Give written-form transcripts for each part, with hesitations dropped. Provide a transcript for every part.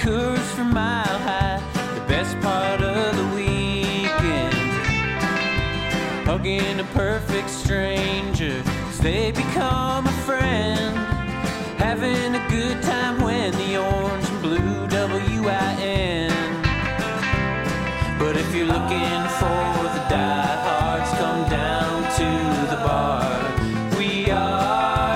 Coors from Mile High, the best part of the weekend. Hugging a perfect stranger as they become a friend. Having a good time when the orange and blue WIN. But if you're looking for the diehards, come down to the bar. We are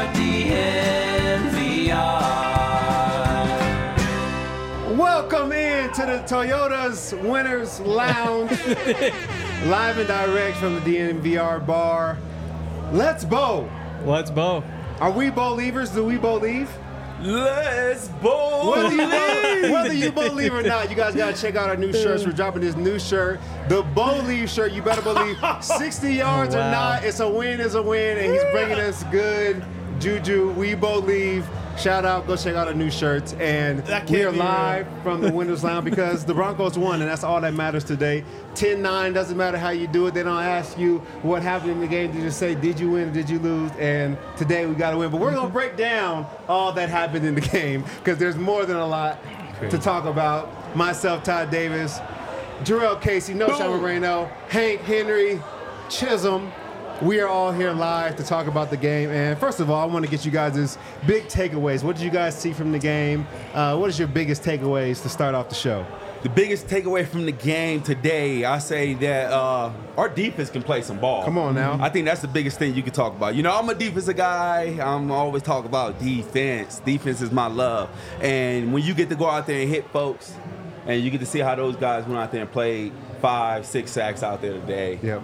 DNVR. Welcome in to the Toyota's Winners Lounge. Live and direct from the DNVR bar. Let's bowl. Let's bow. Are we believers? Do we believe? Let's bowl. Whether you believe or not, you guys got to check out our new shirts. We're dropping this new shirt, the Believe shirt. You better believe 60 yards or not, it's a win, and he's bringing us good juju. We believe. Shout out, go check out our new shirts. And we are live from the Winners Lounge because the Broncos won, and that's all that matters today. 10-9, doesn't matter how you do it. They don't ask you what happened in the game. They just say, did you win or did you lose? And today we got to win. But we're going to break down all that happened in the game because there's more than a lot to talk about. Myself, Todd Davis, Jarrell Casey, Sean Moreno, Hank Henry, Chisholm. We are all here live to talk about the game. And first of all, I want to get you guys' big takeaways. What did you guys see from the game? What is your biggest takeaways to start off the show? The biggest takeaway from the game today, I say that our defense can play some ball. Come on now. I think that's the biggest thing you can talk about. You know, I'm a defensive guy. I'm always talking about defense. Defense is my love. And when you get to go out there and hit folks, and you get to see how those guys went out there and played 5-6 sacks out there today. Yep.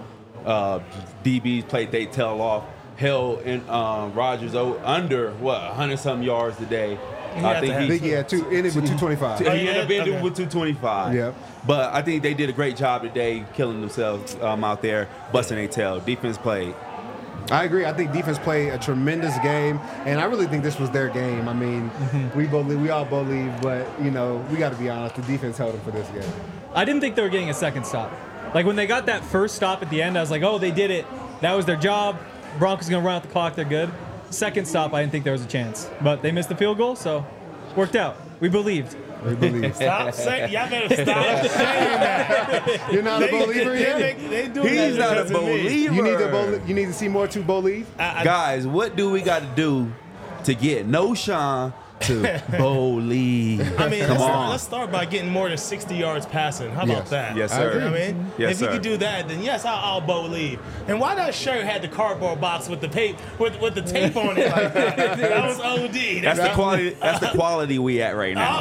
DBs played they tail off, held in Rodgers under 100-something yards today. I think he ended with 225. He ended up ending with 225. Yep. But I think they did a great job today, killing themselves out there, busting their tail. Defense played. I agree. I think defense played a tremendous game, and I really think this was their game. I mean, we all believe, but you know, we got to be honest. The defense held them for this game. I didn't think they were getting a second stop. Like when they got that first stop at the end, I was like, oh, they did it. That was their job. Broncos going to run out the clock. They're good. Second stop, I didn't think there was a chance. But they missed the field goal, so worked out. We believed. We believe. Stop saying, y'all better stop saying that. You're not a believer yet? They do He's not a because of me. believer. You need to see more to believe? Guys, what do we got to do to get Sean to believe? I mean, Come on. let's start by getting more than 60 yards passing. How about that? Yes, I sir. agree. I mean, Yes, if you sir. could do that, then yes, I'll believe. And why that shirt had the cardboard box with the tape with the tape on it like that? That was OD. That's the quality. That's the quality we at right now.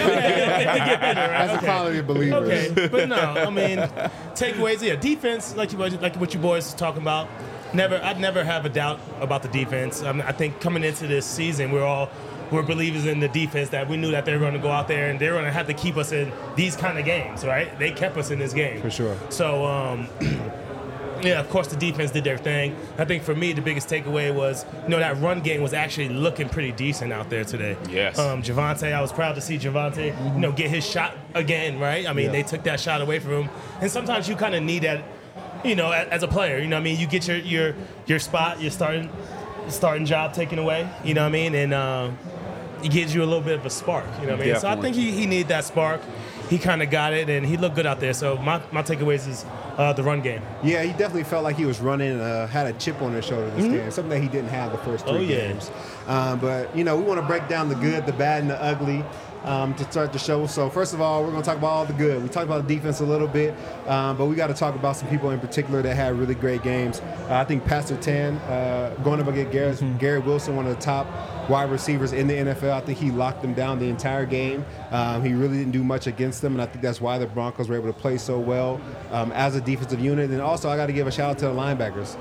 That's the quality of believers. Okay, but no, I mean, takeaways. Yeah, defense, like what you boys was talking about. I'd never have a doubt about the defense. I think coming into this season, we're believers in the defense, that we knew that they were going to go out there and they were going to have to keep us in these kind of games, right? They kept us in this game. For sure. So, yeah, of course, the defense did their thing. I think for me, the biggest takeaway was, that run game was actually looking pretty decent out there today. Yes. Javonte, I was proud to see Javonte, get his shot again, right? I mean, they took that shot away from him. And sometimes you kind of need that, as a player. You know what I mean? You get your spot, your starting job taken away, you know what I mean? And it gives you a little bit of a spark, you know what I mean? Definitely. So I think he needed that spark. He kind of got it, and he looked good out there. So my takeaways is the run game. Yeah, he definitely felt like he was running, had a chip on his shoulder this game, something that he didn't have the first three games. But, we want to break down the good, the bad, and the ugly to start the show. So first of all, we're going to talk about all the good. We talked about the defense a little bit, but we got to talk about some people in particular that had really great games. I think Pastor Tan going up against Garrett Wilson, one of the top wide receivers in the NFL. I think he locked them down the entire game. He really didn't do much against them, and I think that's why the Broncos were able to play so well as a defensive unit. And also, I got to give a shout out to the linebackers.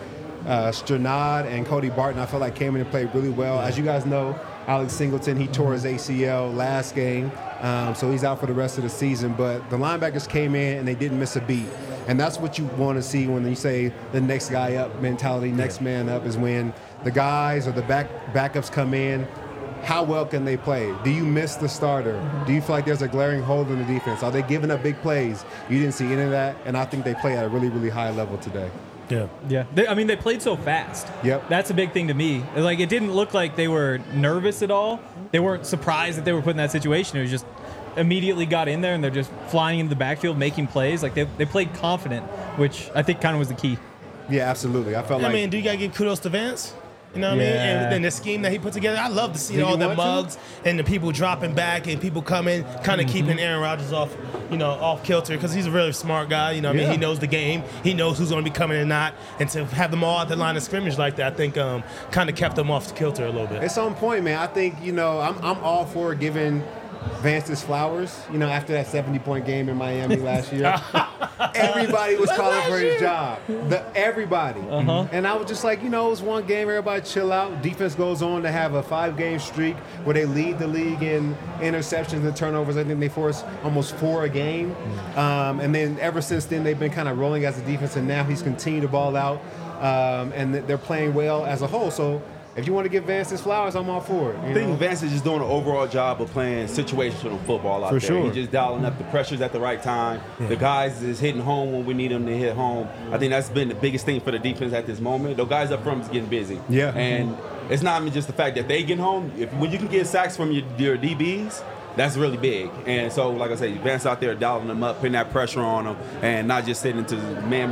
Stranad and Cody Barton, I felt like came in and played really well. As you guys know, Alex Singleton, he tore his ACL last game, so he's out for the rest of the season. But the linebackers came in and they didn't miss a beat. And that's what you want to see when you say the next guy up mentality, next man up, is when the guys or the backups come in. How well can they play? Do you miss the starter? Do you feel like there's a glaring hole in the defense? Are they giving up big plays? You didn't see any of that, and I think they play at a really, really high level today. Yeah. They played so fast. Yep. That's a big thing to me. Like, it didn't look like they were nervous at all. They weren't surprised that they were put in that situation. It was just immediately got in there and they're just flying into the backfield, making plays. Like they played confident, which I think kind of was the key. Yeah, absolutely. I felt like. I mean, do you gotta give kudos to Vance? You know what I mean? And then the scheme that he put together, I love to see all the mugs and the people dropping back and people coming, kind of keeping Aaron Rodgers off kilter, because he's a really smart guy. You know what I mean? He knows the game. He knows who's going to be coming and not. And to have them all at the line of scrimmage like that, I think kind of kept them off kilter a little bit. It's on point, man. I think, I'm all for giving Vance his flowers. After that 70-point game in Miami last year, everybody was calling for his job. Everybody. And I was just like, it was one game, everybody chill out. Defense goes on to have a 5-game streak where they lead the league in interceptions and turnovers. I think they forced almost 4 a game. And then ever since then, they've been kind of rolling as a defense, and now he's continued to ball out. And they're playing well as a whole. So if you want to give Vance his flowers, I'm all for it. I think Vance is just doing an overall job of playing situational football out there. Sure. He's just dialing up the pressures at the right time. Yeah. The guys is hitting home when we need them to hit home. I think that's been the biggest thing for the defense at this moment. The guys up front is getting busy. Yeah. And it's not even just the fact that they get home. When you can get sacks from your DBs, that's really big. And so, like I said, Vance out there dialing them up, putting that pressure on them, and not just sitting into man,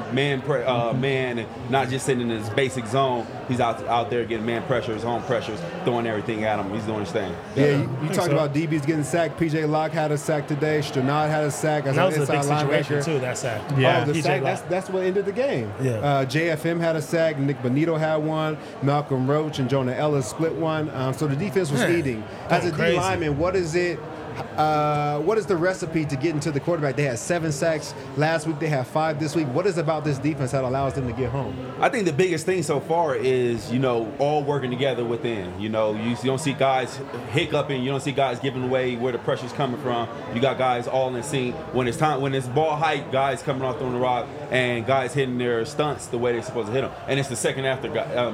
and not just sitting in his basic zone. He's out there getting man pressures, home pressures, throwing everything at him. He's doing his thing. Yeah, you talked about DBs getting sacked. P.J. Locke had a sack today. Stranad had a sack. That was a big situation, too, that sack. Yeah, the sack, that's what ended the game. Yeah. JFM had a sack. Nick Bonito had one. Malcolm Roach and Jonah Ellis split one. So the defense was leading. As a D lineman, what is it? What is the recipe to get into the quarterback? They had 7 sacks last week. They have 5 this week. What is about this defense that allows them to get home? I think the biggest thing so far is, all working together within. You don't see guys hiccuping. You don't see guys giving away where the pressure's coming from. You got guys all in sync. When it's ball height, guys coming off throwing the rock and guys hitting their stunts the way they're supposed to hit them. And it's the second after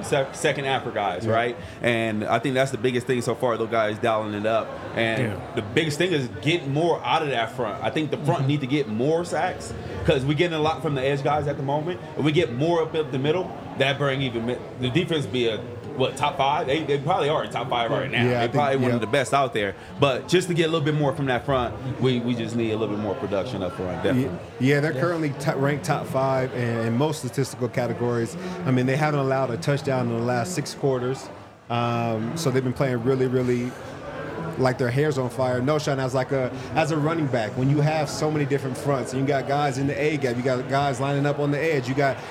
guys, right? And I think that's the biggest thing so far. Those guys dialing it up. And the biggest thing is getting more out of that front. I think the front need to get more sacks because we're getting a lot from the edge guys at the moment. If we get more up the middle, that bring even the defense be top 5? They probably are top 5 right now. They're probably one of the best out there. But just to get a little bit more from that front, we just need a little bit more production up front. Definitely. Yeah, they're currently ranked top 5 in most statistical categories. I mean, they haven't allowed a touchdown in the last 6 quarters. So they've been playing really, really like their hair's on fire. No shot as a running back, when you have so many different fronts, and you got guys in the A gap, you got guys lining up on the edge, you got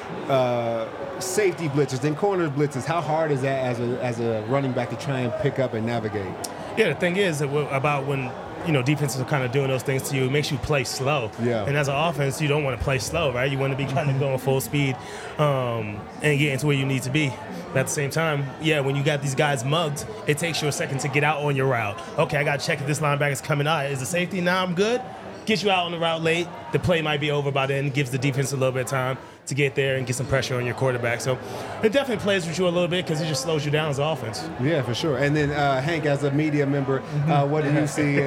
safety blitzers, then corner blitzers. How hard is that as a running back to try and pick up and navigate? Yeah, the thing is about when defenses are kind of doing those things to you, it makes you play slow. Yeah. And as an offense, you don't want to play slow, right? You want to be kind of going full speed and get into where you need to be. But at the same time, when you got these guys mugged, it takes you a second to get out on your route. Okay, I got to check if this linebacker's coming out. Is the safety? Now I'm good. Get you out on the route late. The play might be over by then. Gives the defense a little bit of time to get there and get some pressure on your quarterback. So it definitely plays with you a little bit because it just slows you down as an offense. Yeah, for sure. And then Hank, as a media member, what do you see?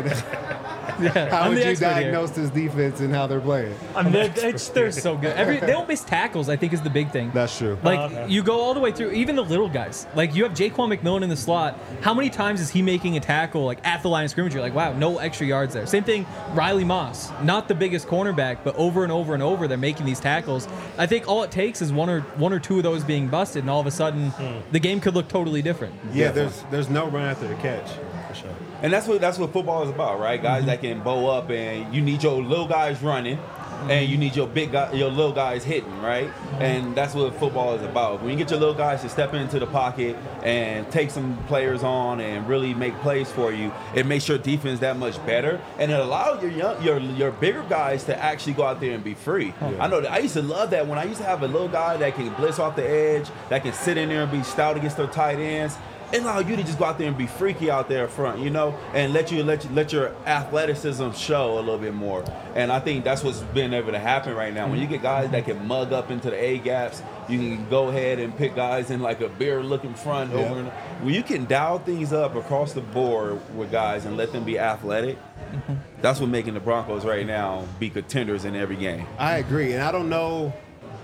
How would you diagnose this defense and how they're playing? I mean, they're so good. They don't miss tackles, I think, is the big thing. That's true. You go all the way through, even the little guys. Like, you have Jaquan McMillan in the slot. How many times is he making a tackle, at the line of scrimmage? You're like, wow, no extra yards there. Same thing, Riley Moss. Not the biggest cornerback, but over and over and over, they're making these tackles. I think all it takes is one or two of those being busted, and all of a sudden, the game could look totally different. Yeah, there's no run after the catch. For sure. And that's what football is about, right? Guys that can bow up, and you need your little guys running, and you need your little guys hitting, right? And that's what football is about. When you get your little guys to step into the pocket and take some players on and really make plays for you, it makes your defense that much better, and it allows your bigger guys to actually go out there and be free. I know that I used to love that when I used to have a little guy that can blitz off the edge, that can sit in there and be stout against their tight ends. It allows you to just go out there and be freaky out there front, and let your athleticism show a little bit more. And I think that's what's been able to happen right now. When you get guys that can mug up into the A gaps, you can go ahead and pick guys in like a beer-looking front over. When you can dial things up across the board with guys and let them be athletic, that's what's making the Broncos right now be contenders in every game. I agree, and I don't know.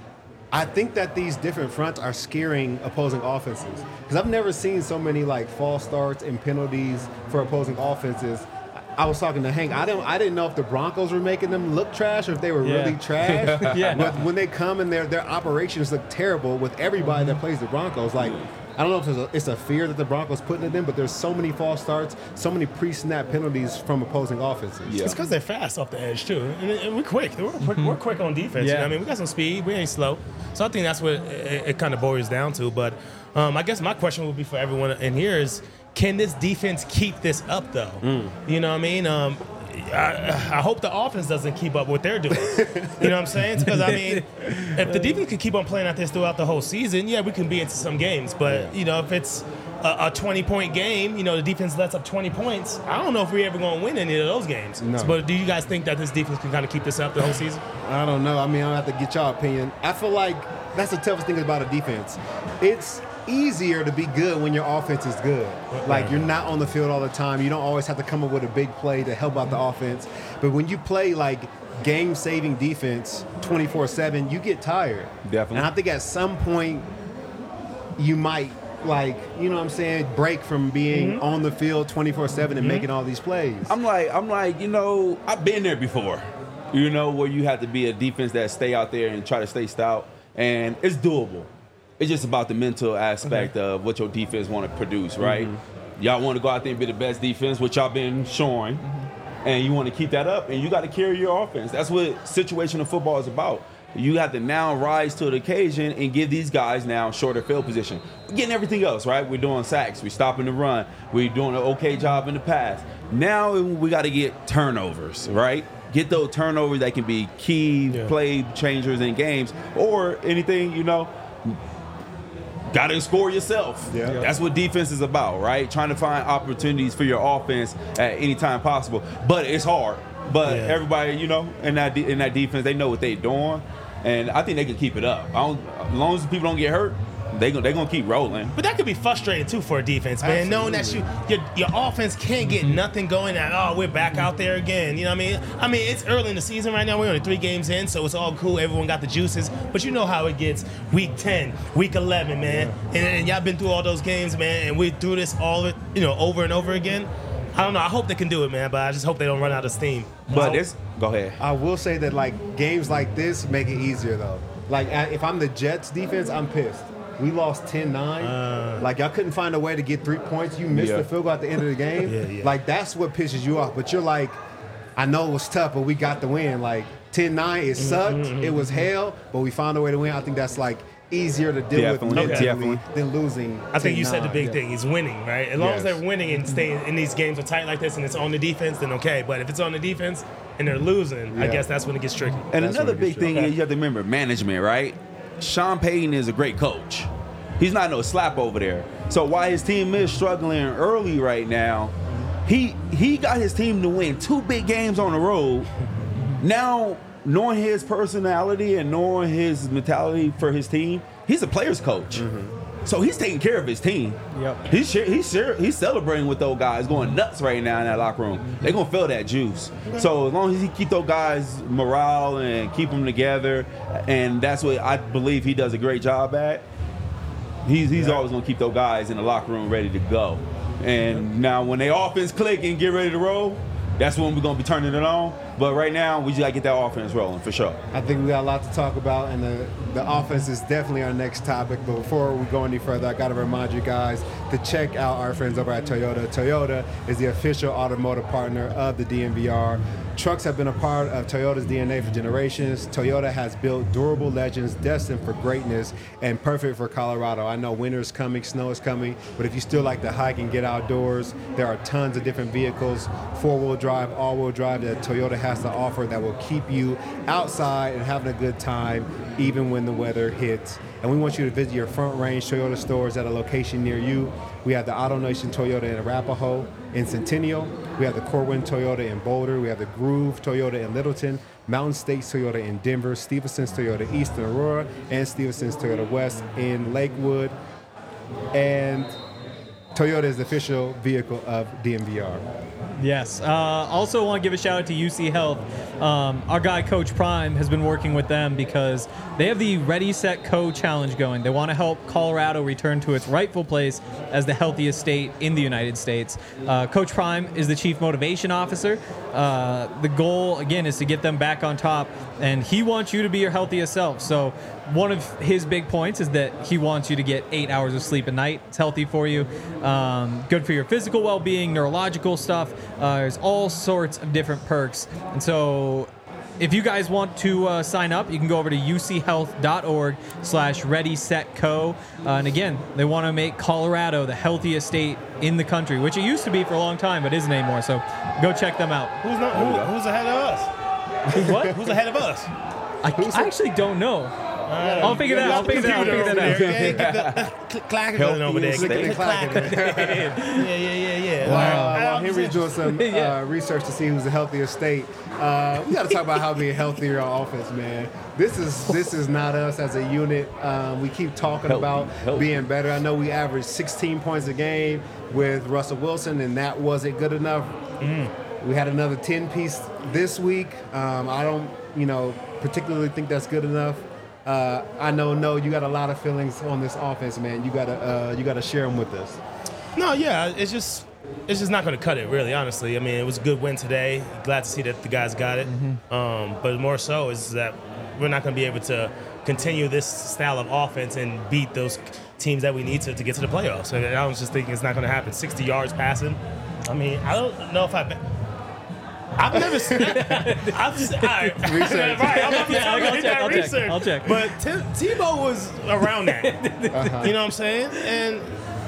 I think that these different fronts are scaring opposing offenses because I've never seen so many false starts and penalties for opposing offenses. I was talking to Hank. I didn't know if the Broncos were making them look trash or if they were Yeah. really trash. Yeah. But when they come and their operations look terrible with everybody that plays the Broncos, like I don't know if it's a fear that the Broncos putting it in, but there's so many false starts, so many pre-snap penalties from opposing offenses. Yeah. It's because they're fast off the edge too, and we're quick. We're quick on defense. Yeah. You know what I mean, we got some speed. We ain't slow. So I think that's what it kind of boils down to. But I guess my question would be for everyone in here is, can this defense keep this up though? You know what I mean? I hope the offense doesn't keep up what they're doing. You know what I'm saying? Because, I mean, if the defense can keep on playing like this throughout the whole season, yeah, we can be into some games. But, you know, if it's a 20-point game, you know, the defense lets up 20 points, I don't know if we're ever going to win any of those games. No. But do you guys think that this defense can kind of keep this up the whole season? I don't know. I mean, I'll have to get y'all opinion. I feel like that's the toughest thing about a defense. It's easier to be good when your offense is good. Like, you're not on the field all the time. You don't always have to come up with a big play to help out the offense. But when you play, like, game-saving defense 24/7, you get tired. Definitely. And I think at some point you might, like, you know what I'm saying, break from being on the field 24/7 and making all these plays. I'm like, you know, I've been there before. You know, where you have to be a defense that stay out there and try to stay stout, and it's doable. It's just about the mental aspect of what your defense want to produce, right? Y'all want to go out there and be the best defense, which y'all been showing, and you want to keep that up, and you got to carry your offense. That's what situational football is about. You have to now rise to the occasion and give these guys now shorter field position. We're getting everything else, right? We're doing sacks. We're stopping the run. We're doing an okay job in the pass. Now we got to get turnovers, right? Get those turnovers that can be key play changers in games or anything, you know. Got to score yourself. Yeah. That's what defense is about, right? Trying to find opportunities for your offense at any time possible. But it's hard. But everybody, you know, in that defense, they know what they're doing, and I think they can keep it up. As long as people don't get hurt, they're gonna keep rolling. But that could be frustrating too for a defense, man. Knowing that your offense can't get nothing going. And we're back out there again. You know what I mean? I mean, it's early in the season right now. We're only 3 games in, so it's all cool. Everyone got the juices. But you know how it gets. Week 10, week 11, man. And y'all been through all those games, man. And we do this all, you know, over and over again. I don't know. I hope they can do it, man. But I just hope they don't run out of steam. But go ahead. I will say that, like, games like this make it easier, though. Like, if I'm the Jets defense, I'm pissed. We lost 10-9. Like, y'all couldn't find a way to get 3 points. You missed the field goal at the end of the game. Like, that's what pisses you off. But you're like, I know it was tough, but we got the win. Like, 10-9, it sucked. It was hell, but we found a way to win. I think that's, like, easier to deal with mentally than losing. I think you said the 10-9. big thing is winning, right? As long as they're winning and staying in these games are tight like this and it's on the defense, then okay. But if it's on the defense and they're losing, I guess that's when it gets tricky. And That's another what it big gets thing is you have to remember management, right? Sean Payton is a great coach. He's not no slap over there. So while his team is struggling early right now, he got his team to win 2 big games on the road. Now, knowing his personality and knowing his mentality for his team, he's a player's coach. So he's taking care of his team. Yep. He's celebrating with those guys, going nuts right now in that locker room. They're gonna feel that juice. So as long as he keep those guys morale and keep them together, and that's what I believe he does a great job at. He's always gonna keep those guys in the locker room ready to go. And now when they offense click and get ready to roll, that's when we're gonna be turning it on. But right now, we just gotta get that offense rolling for sure. I think we got a lot to talk about, and the offense is definitely our next topic. But before we go any further, I got to remind you guys to check out our friends over at Toyota. Toyota is the official automotive partner of the DNVR. Trucks have been a part of Toyota's DNA for generations. Toyota has built durable legends destined for greatness and perfect for Colorado. I know winter is coming, snow is coming, but if you still like to hike and get outdoors, there are tons of different vehicles, 4-wheel drive, all-wheel drive, that Toyota has to offer that will keep you outside and having a good time even when the weather hits. And we want you to visit your Front Range Toyota stores at a location near you. We have the Auto Nation Toyota in Arapahoe, in Centennial. We have the Corwin Toyota in Boulder. We have the Groove Toyota in Littleton, Mountain States Toyota in Denver, Stevenson's Toyota East in Aurora, and Stevenson's Toyota West in Lakewood. And Toyota is the official vehicle of DMVR. Yes. Also want to give a shout out to UC Health. Our guy, Coach Prime, has been working with them because they have the Ready, Set, Co challenge going. They want to help Colorado return to its rightful place as the healthiest state in the United States. Coach Prime is the Chief Motivation Officer. The goal, again, is to get them back on top, and he wants you to be your healthiest self. So one of his big points is that he wants you to get 8 hours of sleep a night. It's healthy for you, good for your physical well-being, neurological stuff. There's all sorts of different perks. And so if you guys want to sign up, you can go over to uchealth.org/readysetco. And again, they want to make Colorado the healthiest state in the country, which it used to be for a long time, but isn't anymore. So go check them out. Who's ahead of us? Who's what? Who's ahead of us? I actually don't know. I'll figure that out. Get the clacker going over there. Looking at clacking. Yeah. While Henry's doing some research to see who's the healthiest state, we got to talk about how being healthier on offense, man. This is not us as a unit. We keep talking about being better. I know we averaged 16 points a game with Russell Wilson, and that wasn't good enough. We had another 10-piece this week. I don't, particularly think that's good enough. I know, you got a lot of feelings on this offense, man. You gotta share them with us. No, yeah, it's just not going to cut it, really, honestly. I mean, it was a good win today. Glad to see that the guys got it. But more so is that we're not going to be able to continue this style of offense and beat those teams that we need to get to the playoffs. And I was just thinking it's not going to happen. 60 yards passing. I mean, I don't know if I've never seen that. Research. Right, I'll check. But Tebow was around that. You know what I'm saying? And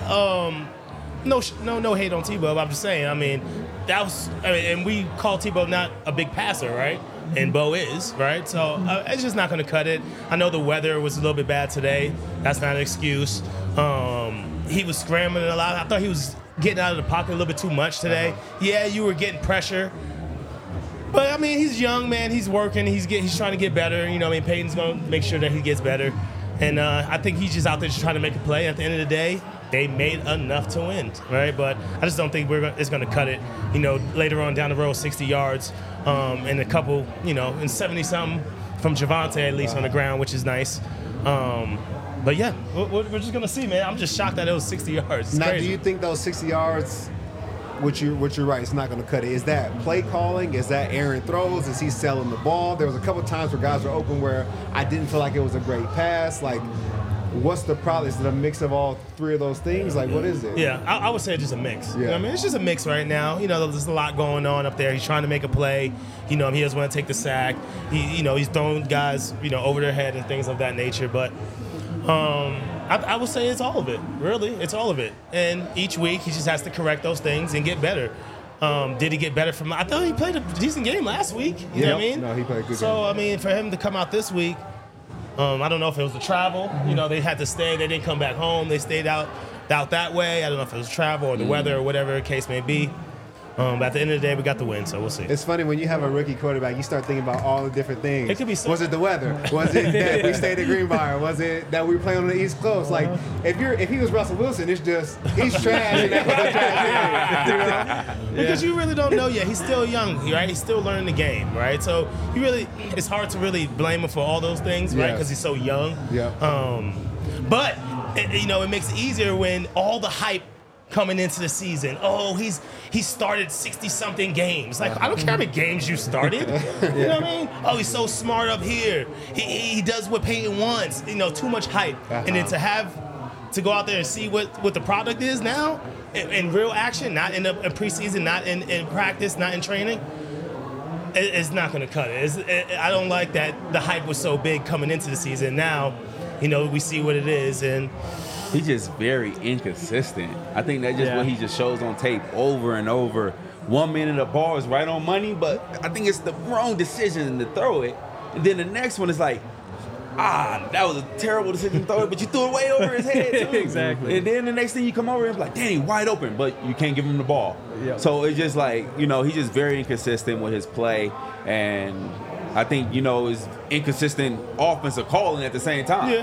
no hate on Tebow. But I'm just saying. I mean, and we call Tebow not a big passer, right? And Bo is, right? So it's just not going to cut it. I know the weather was a little bit bad today. That's not an excuse. He was scrambling a lot. I thought he was getting out of the pocket a little bit too much today. Yeah, you were getting pressure. But, I mean, he's young, man. He's working. He's trying to get better. Peyton's going to make sure that he gets better. And I think he's just out there just trying to make a play. At the end of the day, they made enough to win, right? But I just don't think it's going to cut it, later on down the road, 60 yards and a couple, and 70-something from Javonte at least on the ground, which is nice. But, yeah, we're just going to see, man. I'm just shocked that it was 60 yards. It's crazy. Do you think those 60 yards – which you're right, it's not going to cut it. Is that play calling? Is that Aaron throws? Is he selling the ball? There was a couple times where guys were open where I didn't feel like it was a great pass. Like, what's the problem? Is it a mix of all three of those things? Like, what is it? Yeah, I would say it's just a mix. Yeah. It's just a mix right now. There's a lot going on up there. He's trying to make a play. He doesn't want to take the sack. He's throwing guys, over their head and things of that nature. But I would say it's all of it, really. It's all of it. And each week he just has to correct those things and get better. Did he get better from – I thought he played a decent game last week. You know what I mean? No, he played a good game. So, I mean, for him to come out this week, I don't know if it was the travel. They had to stay. They didn't come back home. They stayed out that way. I don't know if it was travel or the weather or whatever the case may be. But at the end of the day, we got the win, so we'll see. It's funny when you have a rookie quarterback, you start thinking about all the different things. It could be so. Was it the weather? Was it that we stayed at Greenbrier? Was it that we were playing on the East Coast? Like, if he was Russell Wilson, it's just he's trash. And that was a trash game, Because you really don't know yet. He's still young, right? He's still learning the game, right? So it's hard to really blame him for all those things, right? Because he's so young. Yeah. But it makes it easier when all the hype coming into the season. Oh, he started 60-something games. Like, I don't care how many games you started. You know what I mean? Oh, he's so smart up here. He does what Peyton wants. Too much hype. And then to go out there and see what the product is now in real action, not in preseason, not in practice, not in training, it's not going to cut it. I don't like that the hype was so big coming into the season. Now, we see what it is, and he's just very inconsistent. I think that's just what he just shows on tape over and over. 1 minute the ball is right on money, but I think it's the wrong decision to throw it. And then the next one is like, that was a terrible decision to throw it, but you threw it way over his head too. Exactly. And then the next thing you come over and it's like, Danny, wide open, but you can't give him the ball. Yep. So it's just like, he's just very inconsistent with his play. And I think, his inconsistent offensive calling at the same time. Yeah.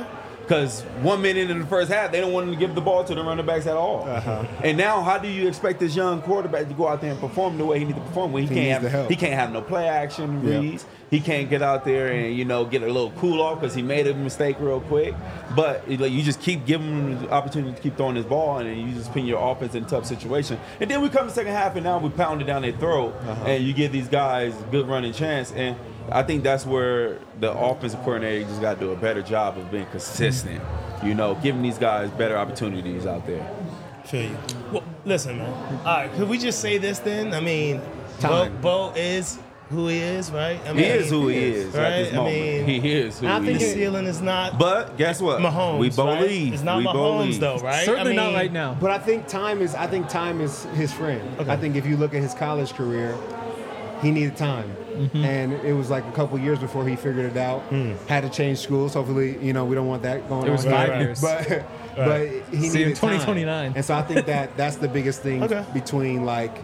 Because 1 minute in the first half, they don't want to give the ball to the running backs at all. And now, how do you expect this young quarterback to go out there and perform the way he needs to perform? When he can't have no play action reads. He can't get out there and get a little cool off because he made a mistake real quick. But you just keep giving him the opportunity to keep throwing his ball, and then you just put your offense in a tough situation. And then we come to the second half, and now we pound it down their throat, and you give these guys a good running chance. And I think that's where the offensive coordinator just got to do a better job of being consistent. Giving these guys better opportunities out there. Feel you. Well, listen, man. All right, could we just say this then? I mean, Bo is who he is, right? I mean, he is who he is right? at this moment. He is who he is. I think the ceiling is not. But guess what? Mahomes. We believe. Right? It's not Mahomes, though, right? Certainly not right now. But I think time is his friend. Okay. I think if you look at his college career, he needed time. And it was like a couple years before he figured it out. Had to change schools. Hopefully, we don't want that going on. It was 5 years. But he See, in needed 2029. time. And so I think that's the biggest thing between like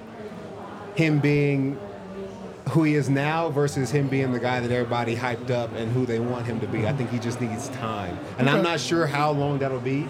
him being who he is now versus him being the guy that everybody hyped up and who they want him to be. I think he just needs time. And I'm not sure how long that'll be.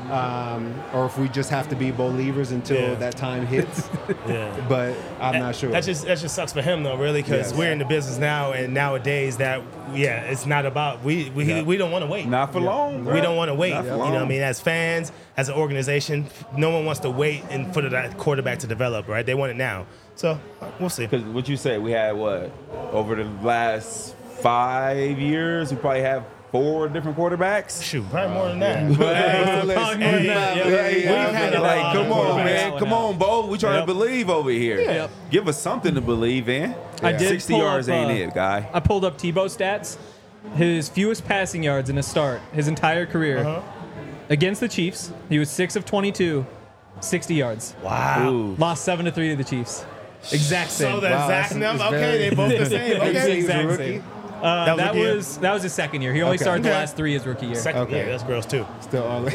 Or if we just have to be believers until that time hits. But I'm not sure. That just sucks for him though, really, because we're in the business now, and nowadays it's not about we don't want to wait. Not for long. We don't want to wait. Not for You know what I long. mean? As fans, as an organization, no one wants to wait and for that quarterback to develop, right? They want it now. So we'll see. Because what you say, we had over the last 5 years, we probably have 4 different quarterbacks. Shoot, probably more than that. Probably more than that, yeah. Come on, man. Come on, Bo. We trying to believe over here. Yep. Give us something to believe in. I did 60 pull yards up, ain't it, guy. I pulled up Tebow stats. His fewest passing yards in a start, his entire career. Against the Chiefs, he was 6 of 22, 60 yards. Wow. Ooh. Lost 7-3 to the Chiefs. Exact same. So that's exact number. Okay, they both the same. Okay. Exact same. That was his second year. He only started the last 3 his rookie year. Second year, that's gross too. Still early.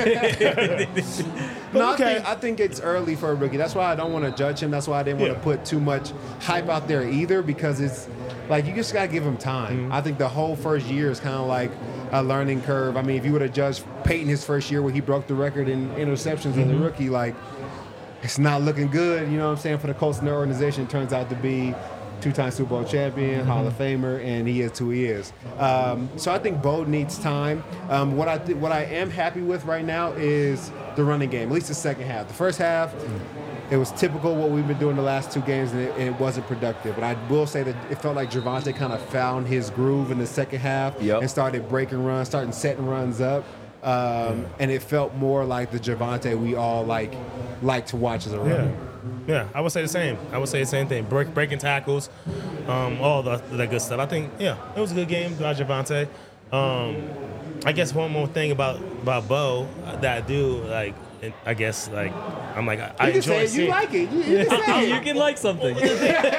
I think it's early for a rookie. That's why I don't want to judge him. That's why I didn't want to put too much hype out there either, because it's like you just got to give him time. I think the whole first year is kind of like a learning curve. I mean, if you would have judged Peyton his first year where he broke the record in interceptions as a rookie, like it's not looking good, you know what I'm saying, for the Colts and their organization. It turns out to be 2-time Super Bowl champion, Hall of Famer, and he is who he is. So I think Bo needs time. What I am happy with right now is the running game, at least the second half. The first half, it was typical what we've been doing the last 2 games, and it wasn't productive. But I will say that it felt like Javonte kind of found his groove in the second half and started breaking runs, starting setting runs up. And it felt more like the Javonte we all like to watch as a runner. Yeah, I would say the same. I would say the same thing. Breaking tackles, all that good stuff. I think, it was a good game by Javonte. I guess one more thing about Bo that I do like. I guess I enjoy seeing. You like it. You can say You can like something. You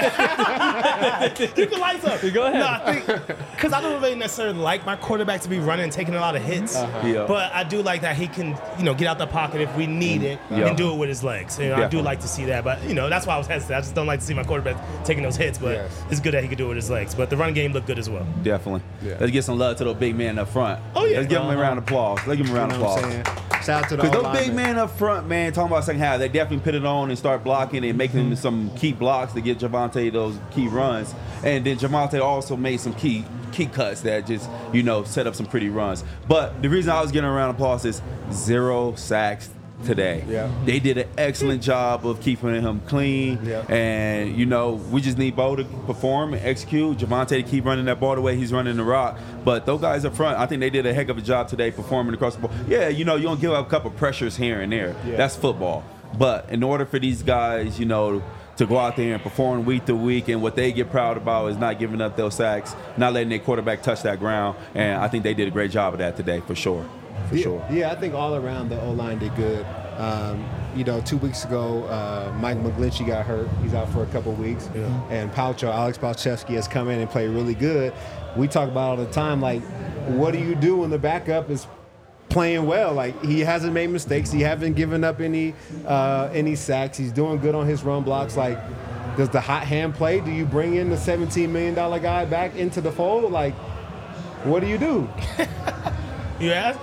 can like something. Go ahead. No, I think because I don't really necessarily like my quarterback to be running and taking a lot of hits, but I do like that he can, get out the pocket if we need it and do it with his legs. I do like to see that, but that's why I was hesitant. I just don't like to see my quarterback taking those hits, but it's good that he could do it with his legs. But the run game looked good as well. Definitely. Let's get some love to those big men up front. Oh, yeah. Let's give them a round of applause. Let's give them a round of You know what applause. I'm saying? Shout out to the Because those O-linemen. big men up front, man, talking about second half, they definitely put it on and start blocking and making some key blocks to get Javonte those key runs. And then Javonte also made some key cuts that just, set up some pretty runs. But the reason I was getting a round of applause is 0 sacks today. Yeah. They did an excellent job of keeping him clean. Yeah. And, we just need Bo to perform and execute. Javonte to keep running that ball the way he's running the rock. But those guys up front, I think they did a heck of a job today performing across the ball. Yeah, you're going to give up a couple pressures here and there. Yeah. That's football. But in order for these guys, to go out there and perform week to week, and what they get proud about is not giving up those sacks, not letting their quarterback touch that ground. And I think they did a great job of that today, for sure. Yeah, I think all around the O-line did good. 2 weeks ago, Mike McGlinchey got hurt. He's out for a couple weeks. Yeah. And Alex Palczewski has come in and played really good. We talk about all the time, like, what do you do when the backup is playing well? Like, he hasn't made mistakes. He hasn't given up any sacks. He's doing good on his run blocks. Like, does the hot hand play? Do you bring in the $17 million guy back into the fold? Like, what do you do? You ask?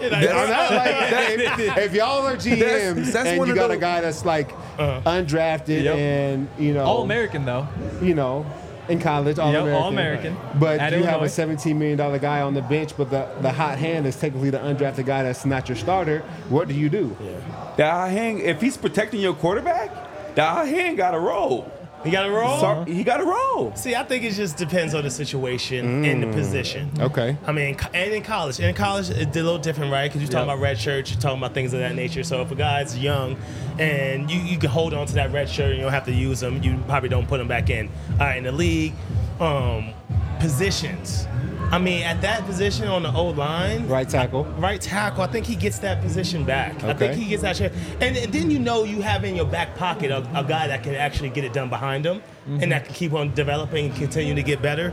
If y'all are GMs that's and one you of got a those- guy that's like undrafted Yep. and All American though. In college, All-American. All-American. But At you have a Illinois. $17 million guy on the bench, but the hot hand is technically the undrafted guy that's not your starter. What do you do? That high hand, if he's protecting your quarterback, that high hand got to roll. You got to roll? He got to roll. See, I think it just depends on the situation and the position. Okay. I mean, and in college. In college, it's a little different, right? Because you're talking about red shirts, you're talking about things of that nature. So if a guy's young and you can hold on to that red shirt and you don't have to use them, you probably don't put him back in. All right, in the league, positions. I mean, at that position on the O-line, Right tackle. I think he gets that position back. I think Okay. he gets that shit. And then you have in your back pocket a guy that can actually get it done behind him and that can keep on developing and continue to get better.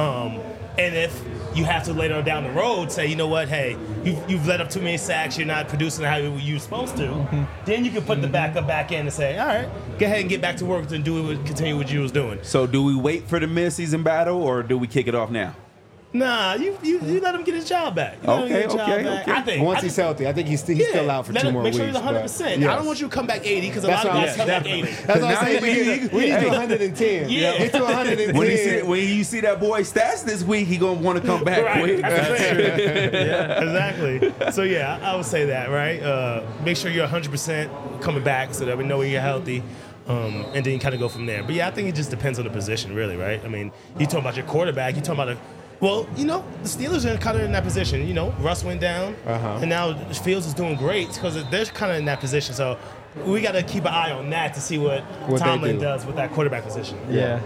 And if you have to later down the road say, you know what, hey, you've let up too many sacks, you're not producing how you're supposed to, then you can put the backup back in and say, all right, go ahead and get back to work and continue what you was doing. So do we wait for the mid-season battle or do we kick it off now? Nah, you let him get his job back. You let him get his job back. I think Once he's healthy, I think he's still out for let 2 him more make weeks. sure he's 100%. but- I don't want you to come back 80 because a That's lot of what guys I'm come back 80. That's what I'm Now saying. We need to 110. Yeah. Get to 110. When you see that boy stats this week, he gonna want to come back Right. quick. That's the thing. Exactly. So yeah, I would say that, right? Make sure you're 100% coming back so that we know you're healthy. And then you kind of go from there. But yeah, I think it just depends on the position, really, right? I mean, you talking about your quarterback, you talking about the Steelers are kind of in that position. Russ went down, and now Fields is doing great because they're kind of in that position. So we got to keep an eye on that to see what they Tomlin do. does with that quarterback position. Yeah.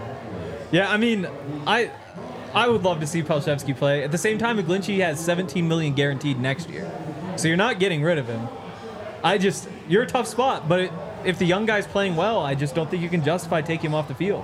I mean, I would love to see Palshevsky play. At the same time, McGlinchey has $17 million guaranteed next year, so you're not getting rid of him. You're a tough spot, but if the young guy's playing well, I just don't think you can justify taking him off the field.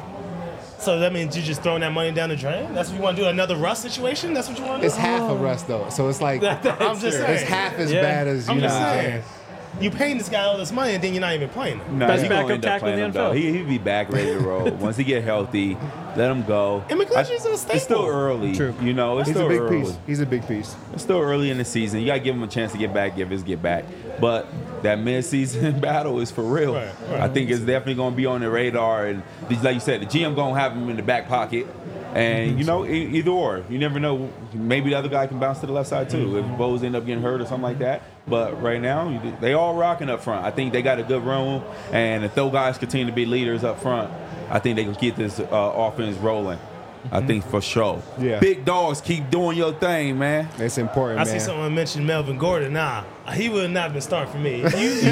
So that means you're just throwing that money down the drain? That's what you want to do? Another Russ situation? That's what you want to do? It's half of Russ though, so it's like I'm just saying. it's half as Yeah. bad as I'm you know. just what I'm saying. You paying this guy all this money and then you're not even playing him. Nah, Best he gonna backup end up tackle in playing the him, though. NFL. He'll be back ready to roll. Once he get healthy, let him go. And McGlinchey's a staple. It's still early. True. It's He's still a big early. piece. He's a big piece. It's still early in the season. You got to give him a chance to get back, give his get back. But that mid-season battle is for real. Right. I think it's definitely going to be on the radar. And like you said, the GM going to have him in the back pocket. And, either or. You never know. Maybe the other guy can bounce to the left side, too, if Bose end up getting hurt or something like that. But right now, they all rocking up front. I think they got a good room. And if those guys continue to be leaders up front, I think they can get this offense rolling. I think for sure. Yeah. Big dogs, keep doing your thing, man. It's important, I man. see someone mention Melvin Gordon. Nah, he would not have been starting for me.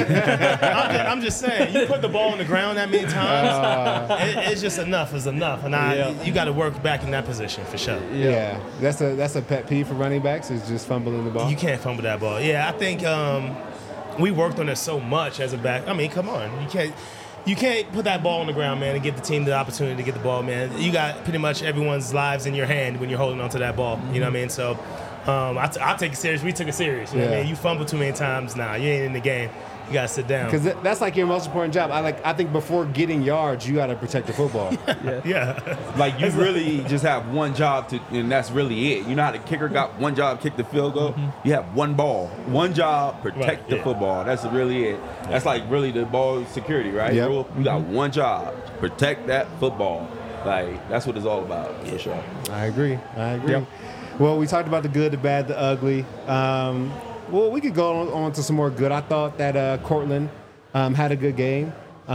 I'm just saying, you put the ball on the ground that many times, it's just enough is enough. And you got to work back in that position for sure. Yeah, that's a pet peeve for running backs is just fumbling the ball. You can't fumble that ball. Yeah, I think we worked on it so much as a back. I mean, come on. You can't put that ball on the ground, man, and give the team the opportunity to get the ball, man. You got pretty much everyone's lives in your hand when you're holding onto that ball. You know what I mean? So I take it serious. We took it serious. You know what I mean? You fumble too many times, nah, you ain't in the game. You got to sit down. Because that's like your most important job. I think before getting yards, you got to protect the football. Yeah. Like, you really just have one job and that's really it. You know how the kicker got one job, kick the field goal? You have one ball, one job, protect the football. That's really it. That's like really the ball security, right? Yep. Rule? You got one job, protect that football. Like, that's what it's all about, for sure. I agree. Yep. Well, we talked about the good, the bad, the ugly. Well, we could go on to some more good. I thought that Cortland had a good game.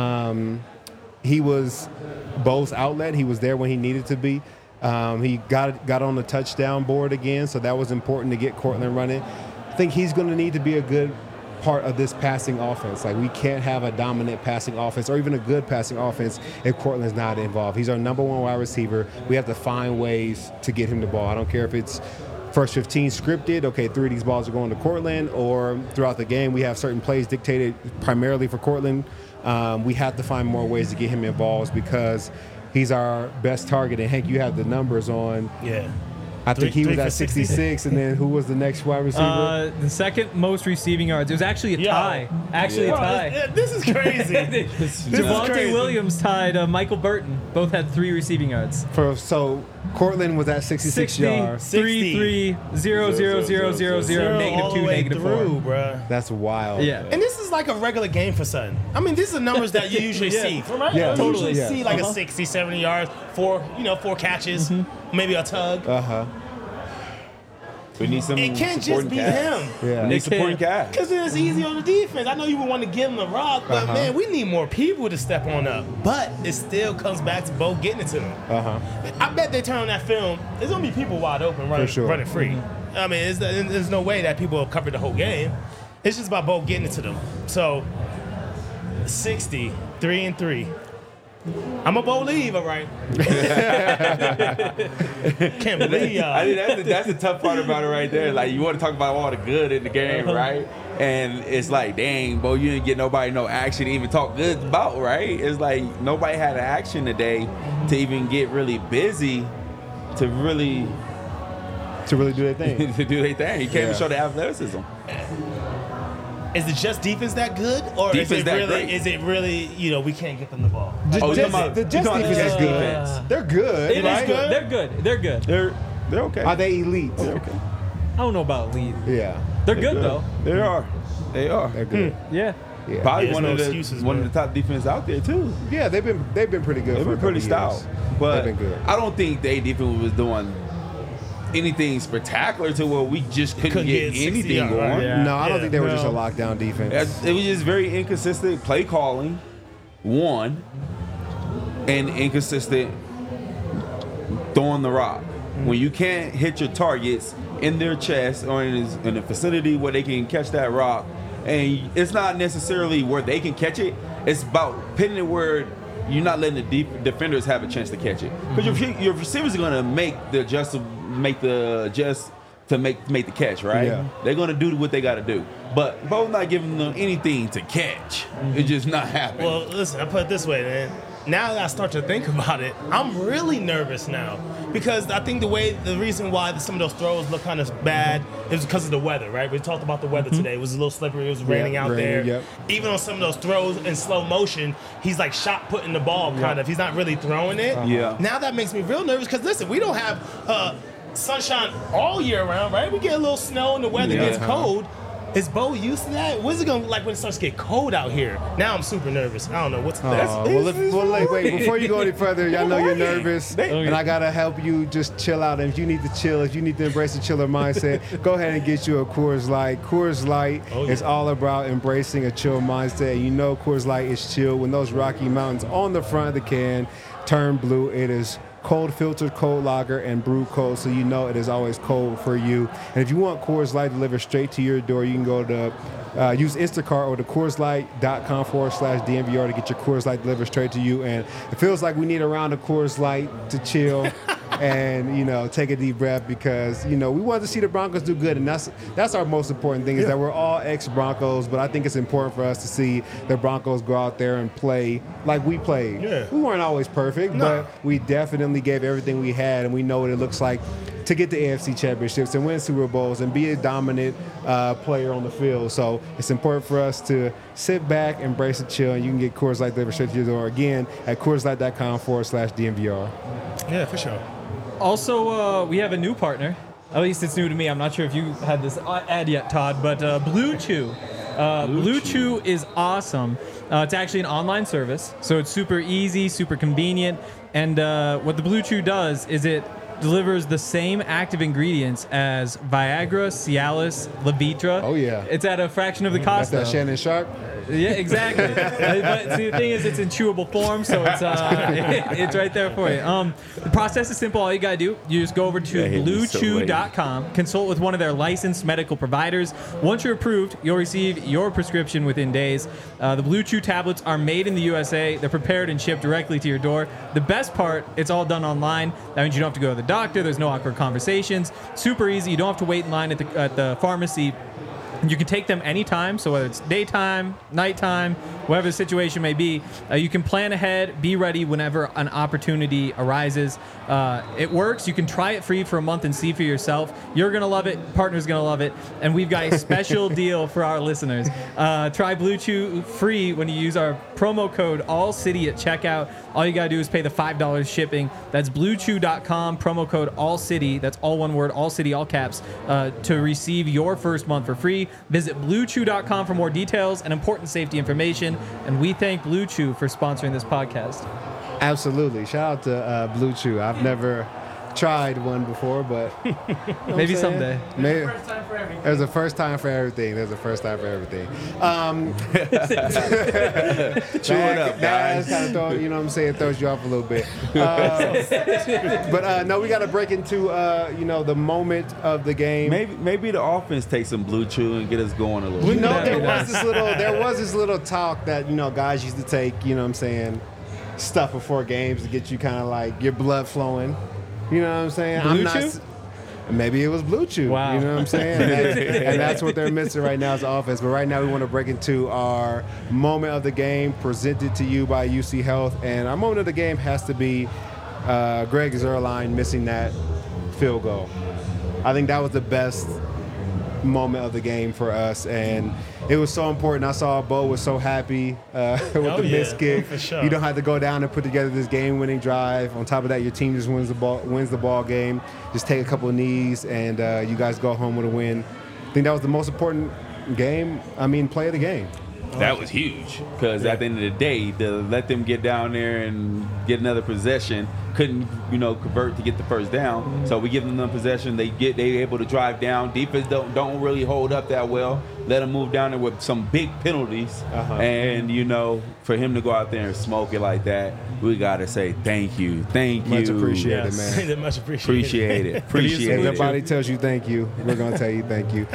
He was Bo's outlet. He was there when he needed to be. He got on the touchdown board again, so that was important to get Cortland running. I think he's going to need to be a good part of this passing offense. Like, we can't have a dominant passing offense or even a good passing offense if Cortland's not involved. He's our number one wide receiver. We have to find ways to get him the ball. I don't care if it's first 15 scripted, okay, 3 of these balls are going to Cortland, or throughout the game we have certain plays dictated primarily for Cortland. We have to find more ways to get him involved because he's our best target. And Hank, you have the numbers on I think he Three was for at 60. 66, and then who was the next wide receiver? The second most receiving yards. It was actually a tie. Actually a Bro, tie. this is crazy. Javonte crazy. Williams tied Michael Burton. Both had 3 receiving yards. So Cortland was at 66 yards. 3, 3, 0, 0, 0, 0, 0, negative all 2, the way negative through, 4. bruh. That's wild. Yeah. And this is like a regular game for Sutton. I mean, these are numbers that you usually Yeah. see. Right? Yeah, You totally. usually Yeah. see like a 60, 70 yards, 4 catches, maybe a tug. We need some It can't just supporting be cast. him. Yeah. We need supporting cast. Because then it's easy on the defense. I know you would want to give him the rock, but man, we need more people to step on up. But it still comes back to Bo getting it to them. I bet they turn on that film. There's going to be people wide open running, sure. running free. I mean, there's no way that people have covered the whole game. It's just about Bo getting it to them. So, 60, 3-3. I'm a Bo leave, all right? Can't believe y'all. I think that's the tough part about it right there. Like, you want to talk about all the good in the game, right? And it's like, dang, Bo, you didn't get nobody no action to even talk good about, right? It's like nobody had an action today to even get really busy to really To really do their thing. to do their thing. You can't even Yeah. show the athleticism. Is it just defense that good, or Defense that great. is it really we can't get them the ball? The Oh, you Jets, talking about- the you Jets talking about defense the is Jets good. They're good, It is right? good. They're good. They're good. They're okay. Are they elite? I don't know about lead. Yeah. They're good though. They are. They are. They're good. Yeah. Yeah. Probably There's one no of the excuses, one man. of the top defenses out there too. Yeah, they've been pretty good. They've for a been pretty couple stout, years. but They've been good. I don't think they defense was doing anything spectacular to where we just couldn't get 60 anything yards, going. right? Yeah. No, I don't Yeah. think they were just a No. lockdown defense. It was just very inconsistent play calling, one, and inconsistent throwing the rock. When you can't hit your targets in their chest or in a vicinity where they can catch that rock, and it's not necessarily where they can catch it, it's about pitting it where you're not letting the defenders have a chance to catch it. Because your receivers are going to make the adjust to make the catch, right? Yeah. They're going to do what they got to do. But Bo's not giving them anything to catch. It's just not happening. Well, listen, I put it this way, man. Now that I start to think about it, I'm really nervous now because I think the reason why some of those throws look kind of bad is because of the weather, right? We talked about the weather today. It was a little slippery. It was raining out there. Yep. Even on some of those throws in slow motion, he's like shot putting the ball kind of. He's not really throwing it. Yeah. Now that makes me real nervous because listen, we don't have sunshine all year round, right? We get a little snow and the weather gets cold. Is Bo used to that? What's it gonna look like when it starts to get cold out here? Now I'm super nervous. I don't know what's Wait, before you go any further, y'all know you're nervous, and I gotta help you just chill out. And if you need to chill, if you need to embrace the chiller mindset, go ahead and get you a Coors Light. Coors Light is all about embracing a chill mindset. And you know Coors Light is chill when those Rocky Mountains on the front of the can turn blue. It is cold filtered, cold lager, and brewed cold, so you know it is always cold for you. And if you want Coors Light delivered straight to your door, you can go to use Instacart or the CoorsLight.com/DNVR to get your Coors Light delivered straight to you. And it feels like we need a round of Coors Light to chill and take a deep breath because we want to see the Broncos do good, and that's our most important thing is that we're all ex-Broncos, but I think it's important for us to see the Broncos go out there and play like we played. Yeah. We weren't always perfect, but we definitely gave everything we had, and we know what it looks like to get the AFC championships and win Super Bowls and be a dominant player on the field. So it's important for us to sit back, embrace and chill, and you can get Coors Light delivered straight to your door again at CoorsLight.com/DNVR. Yeah, for sure. Also, we have a new partner. At least it's new to me. I'm not sure if you had this ad yet, Todd, but Blue Chew. Blue Chew is awesome. It's actually an online service, so it's super easy, super convenient. And what the Blue Chew does is it delivers the same active ingredients as Viagra, Cialis, Levitra. Oh, yeah. It's at a fraction of the cost. That's that Shannon Sharp. Yeah, exactly. But see, the thing is, it's in chewable form, so it's it's right there for you. The process is simple. All you gotta do, you just go over to BlueChew.com, consult with one of their licensed medical providers. Once you're approved, you'll receive your prescription within days. The Blue Chew tablets are made in the USA. They're prepared and shipped directly to your door. The best part, it's all done online. That means you don't have to go to the doctor. There's no awkward conversations. Super easy. You don't have to wait in line at the pharmacy. You can take them anytime, so whether it's daytime, nighttime, whatever the situation may be, you can plan ahead, be ready whenever an opportunity arises. It works. You can try it free for a month and see for yourself. You're going to love it. Partner's going to love it. And we've got a special deal for our listeners. Try Blue Chew free when you use our promo code ALLCITY at checkout. All you got to do is pay the $5 shipping. That's bluechew.com, promo code ALLCITY. That's all one word, ALLCITY, all caps, to receive your first month for free. Visit bluechew.com for more details and important safety information. And we thank Blue Chew for sponsoring this podcast. Absolutely. Shout out to Blue Chew. I've never tried one before, but Maybe someday. Maybe. There's a first time for everything. There's a first time for everything. Chew it up, guys. Kind of you know what I'm saying, throws you off a little bit. But no, we got to break into the moment of the game. Maybe the offense takes some Blue Chew and get us going a little. You know, there was this little talk that guys used to take. You know what I'm saying, stuff before games to get you kind of like your blood flowing. You know what I'm saying? Blue Chew? Maybe it was Blue Chew. Wow. You know what I'm saying? And that's what they're missing right now is offense. But right now we want to break into our moment of the game presented to you by UC Health. And our moment of the game has to be Greg Zuerlein missing that field goal. I think that was the best moment of the game for us, and it was so important. I saw Bo was so happy with the missed kick. For sure. You don't have to go down and put together this game-winning drive. On top of that, your team just wins the ball game. Just take a couple of knees, and you guys go home with a win. I think that was the most important play of the game. That was huge because at the end of the day, to let them get down there and get another possession, couldn't convert to get the first down. Mm-hmm. So we give them the possession, they able to drive down. Defense don't really hold up that well. Let them move down there with some big penalties, and for him to go out there and smoke it like that, we gotta say thank you. Much appreciated, man. Much appreciated. If nobody tells you thank you, we're gonna tell you thank you.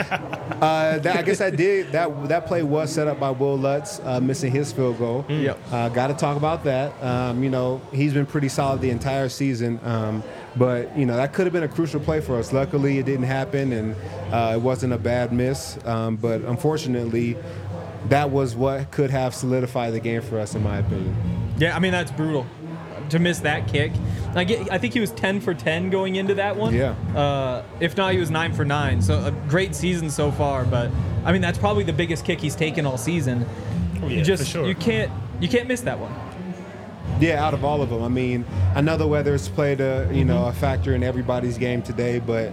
I guess that play was set up by Will Lutz missing his field goal. Yep. Got to talk about that. He's been pretty solid the entire season. But that could have been a crucial play for us. Luckily, it didn't happen, and it wasn't a bad miss. But unfortunately, that was what could have solidified the game for us, in my opinion. Yeah, that's brutal to miss that kick. I think he was 10 for 10 going into that one. Yeah. If not, he was 9 for 9. So a great season so far. But that's probably the biggest kick he's taken all season. Oh, yeah, for sure. You can't miss that one. Yeah, out of all of them. I know the weather's played a factor in everybody's game today, but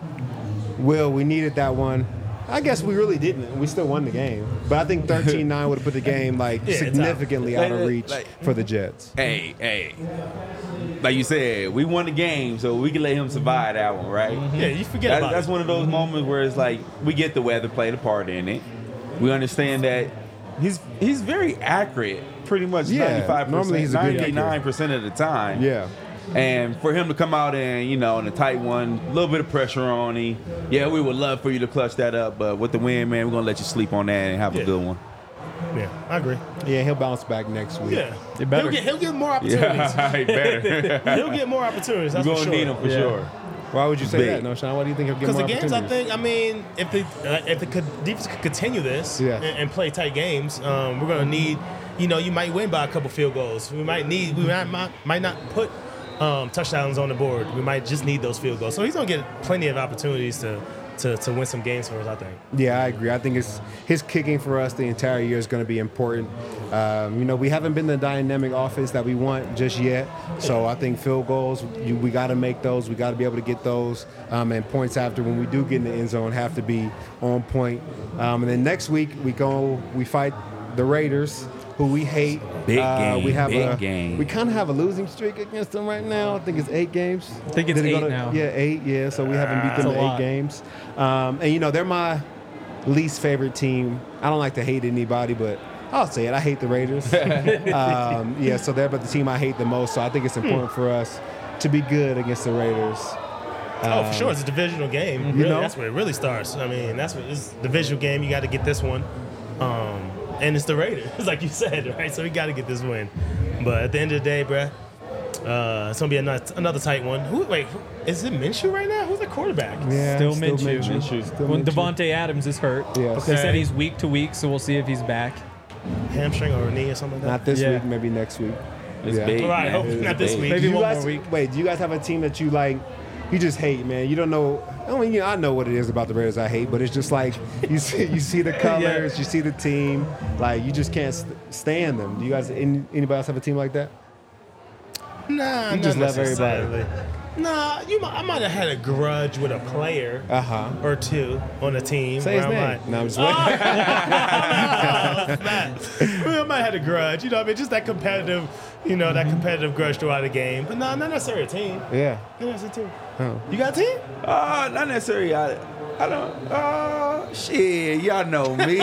we needed that one. I guess we really didn't. We still won the game. But I think 13-9 would have put the game significantly out of reach for the Jets. Hey. Like you said, we won the game, so we can let him survive that one, right? Yeah, you forget about it. That's one of those moments where it's like we get the weather played a part in it. We understand that he's very accurate, pretty much 95%, normally he's a good 99% of the time. Yeah. And for him to come out and, in a tight one, a little bit of pressure on him. Yeah, we would love for you to clutch that up, but with the win, man, we're going to let you sleep on that and have a good one. Yeah, I agree. Yeah, he'll bounce back next week. Yeah. He'll get more opportunities. Yeah, he better. He'll get more opportunities, that's for sure. We're going to need him for sure. Why would you say that, No, Sean? Why do you think he'll get more opportunities? Because the games, if the defense could continue this and play tight games, we're going to need, you might win by a couple field goals. We might not put touchdowns on the board. We might just need those field goals. So he's going to get plenty of opportunities to win some games for us, I think. Yeah, I agree. I think his kicking for us the entire year is going to be important. We haven't been the dynamic offense that we want just yet. So I think field goals, we got to make those. We got to be able to get those. And points after when we do get in the end zone have to be on point. And then next week we fight the Raiders, who we hate. Big game. We kind of have a losing streak against them right now. I think it's 8 games. I think it's 8 now. Yeah, 8. Yeah, so we haven't beat them in 8 games. And they're my least favorite team. I don't like to hate anybody, but I'll say it. I hate the Raiders. So they're the team I hate the most. So I think it's important for us to be good against the Raiders. For sure. It's a divisional game. Really, that's where it really starts. It's a divisional game. You got to get this one. And it's the Raiders, like you said, right? So we got to get this win. But at the end of the day, bruh, it's going to be another tight one. Is it Minshew right now? Who's the quarterback? Yeah, Still Minshew. Still When Minshew. Devontae Adams is hurt. Yes. They said Okay. he's week to week, so we'll see if he's back. Hamstring or a knee or something like that? Not this Yeah. week, maybe next week. It's Yeah. big. Right, man. hopefully It's not this big. week. Maybe Do you one guys, more week. Wait, do you guys have a team that you like? You just hate, man. You don't know. I mean, I know what it is about the Raiders I hate, but it's just like you see the colors, you see the team, like you just can't stand them. Do you guys? Anybody else have a team like that? Nah, You just not love everybody. necessarily. Nah, I might have had a grudge with a player Uh-huh. or two on a team. Say his where I'm name. like, No, I'm just Oh, waiting. I might have had a grudge, you know what I mean? Just that competitive, that competitive grudge throughout the game. But nah, not necessarily a team. Yeah. Not necessarily a team. Oh. You got a team? Not necessarily. I don't. Shit, y'all know me.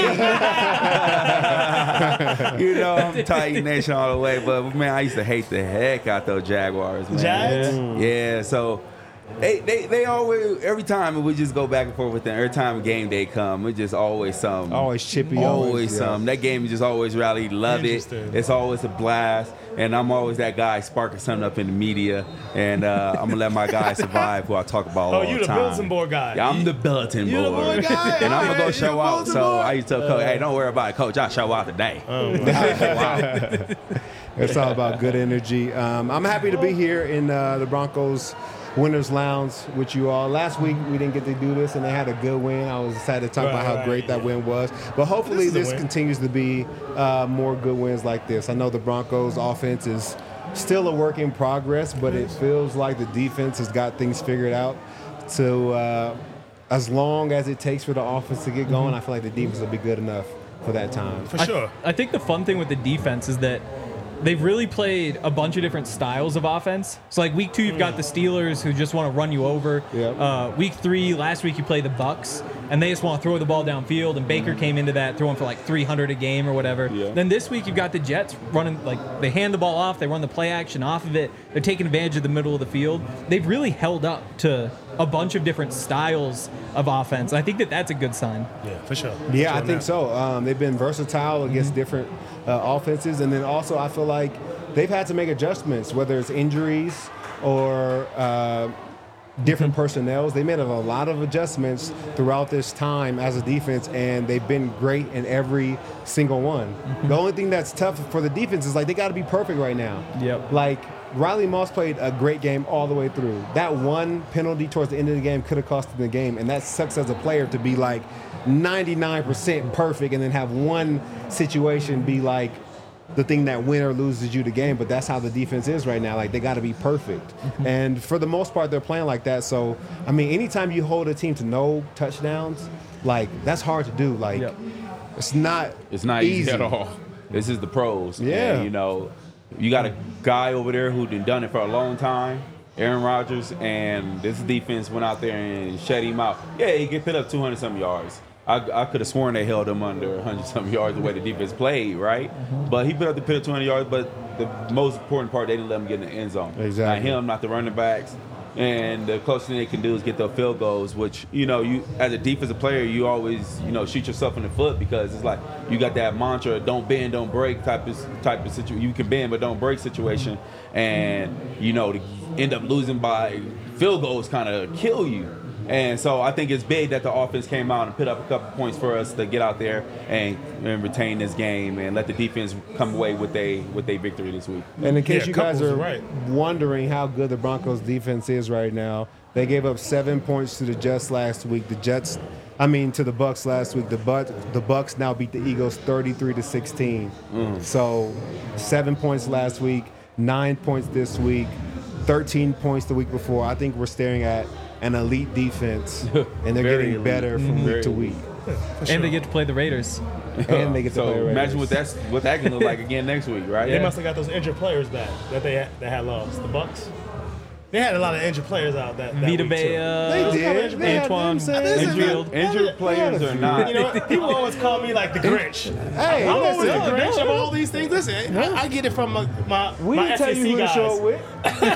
I'm Titan Nation all the way. But man, I used to hate the heck out those Jaguars, man. Jags? Yeah. So they always, every time we just go back and forth with them. Every time game day come, it's just always something. Always chippy. Always yeah. something. That game is just always rally. Love it. Interesting. It's always a blast. And I'm always that guy sparking something up in the media. And I'm going to let my guys survive who I talk about all the time. Oh, you the bulletin board guy. Yeah, I'm the bulletin You the board. board guy? And I'm going to Yeah, go show you out. bulletin So board? I used to tell Coach, hey, don't worry about it, Coach. I'll show out today. It's all about good energy. I'm happy to be here in the Broncos Winners Lounge with you all. Last week we didn't get to do this, and they had a good win. I was excited to talk about how great that win was. But hopefully This is a this win. continues to be more good wins like this. I know the Broncos offense is still a work in progress, but it feels like the defense has got things figured out. So as long as it takes for the offense to get going, I feel like the defense will be good enough for that time. For sure. I think the fun thing with the defense is that they've really played a bunch of different styles of offense. So like week 2, you've got the Steelers who just want to run you over. Yep. Week 3, last week you play the Bucks, and they just want to throw the ball downfield. And Baker came into that throwing for like 300 a game or whatever. Yeah. Then this week you've got the Jets running, like they hand the ball off, they run the play action off of it. They're taking advantage of the middle of the field. They've really held up to a bunch of different styles of offense. I think that that's a good sign. Yeah, for sure. Yeah, For I sure think so. They've been versatile against different offenses, and then also I feel like they've had to make adjustments, whether it's injuries or different personnels. They made a lot of adjustments throughout this time as a defense, and they've been great in every single one. The only thing that's tough for the defense is like they got to be perfect right now. Yep. Like Riley Moss played a great game all the way through. That one penalty towards the end of the game could have cost him the game, and that sucks as a player to be like 99% perfect and then have one situation be like the thing that win or loses you the game. But that's how the defense is right now. Like they got to be perfect, and for the most part they're playing like that. So I mean, anytime you hold a team to no touchdowns, like that's hard to do. Like Yep. it's not easy at all. This is the pros. Yeah. And, you got a guy over there who done it for a long time, Aaron Rodgers, and this defense went out there and shut him out. Yeah, he could put up 200-some yards. I could have sworn they held him under 100-some yards the way the defense played, right? But he put up 200 yards, but the most important part, they didn't let him get in the end zone. Exactly. Not him, not the running backs. And the closest thing they can do is get the field goals, which, you as a defensive player, you always, shoot yourself in the foot because it's like you got that mantra, don't bend, don't break type of situation. You can bend, but don't break situation. And, to end up losing by field goals kind of kill you. And so I think it's big that the offense came out and put up a couple points for us to get out there and retain this game and let the defense come away with a victory this week. And in case Yeah, you guys Couples are is right. wondering how good the Broncos defense is right now, they gave up 7 points to the Jets last week. To the Bucks last week. The Bucks now beat the Eagles 33-16. So 7 points last week, 9 points this week, 13 points the week before. I think we're staring at an elite defense, and they're Very getting elite. better from week to week. And they get to play the Raiders. And they get to So play imagine Raiders. what that can look like again next week, right? They must have got those injured players back that they had lost. The Bucks. They had a lot of injured players out that Vita week, too. Vea, They did. They had Antoine them saying- Winfield. Injured players are not. You know what? People always call me like the Grinch. Hey, I'm always the listen. Grinch of all these things. Listen, I get it from my We my didn't tell you SEC who to guys. show up with.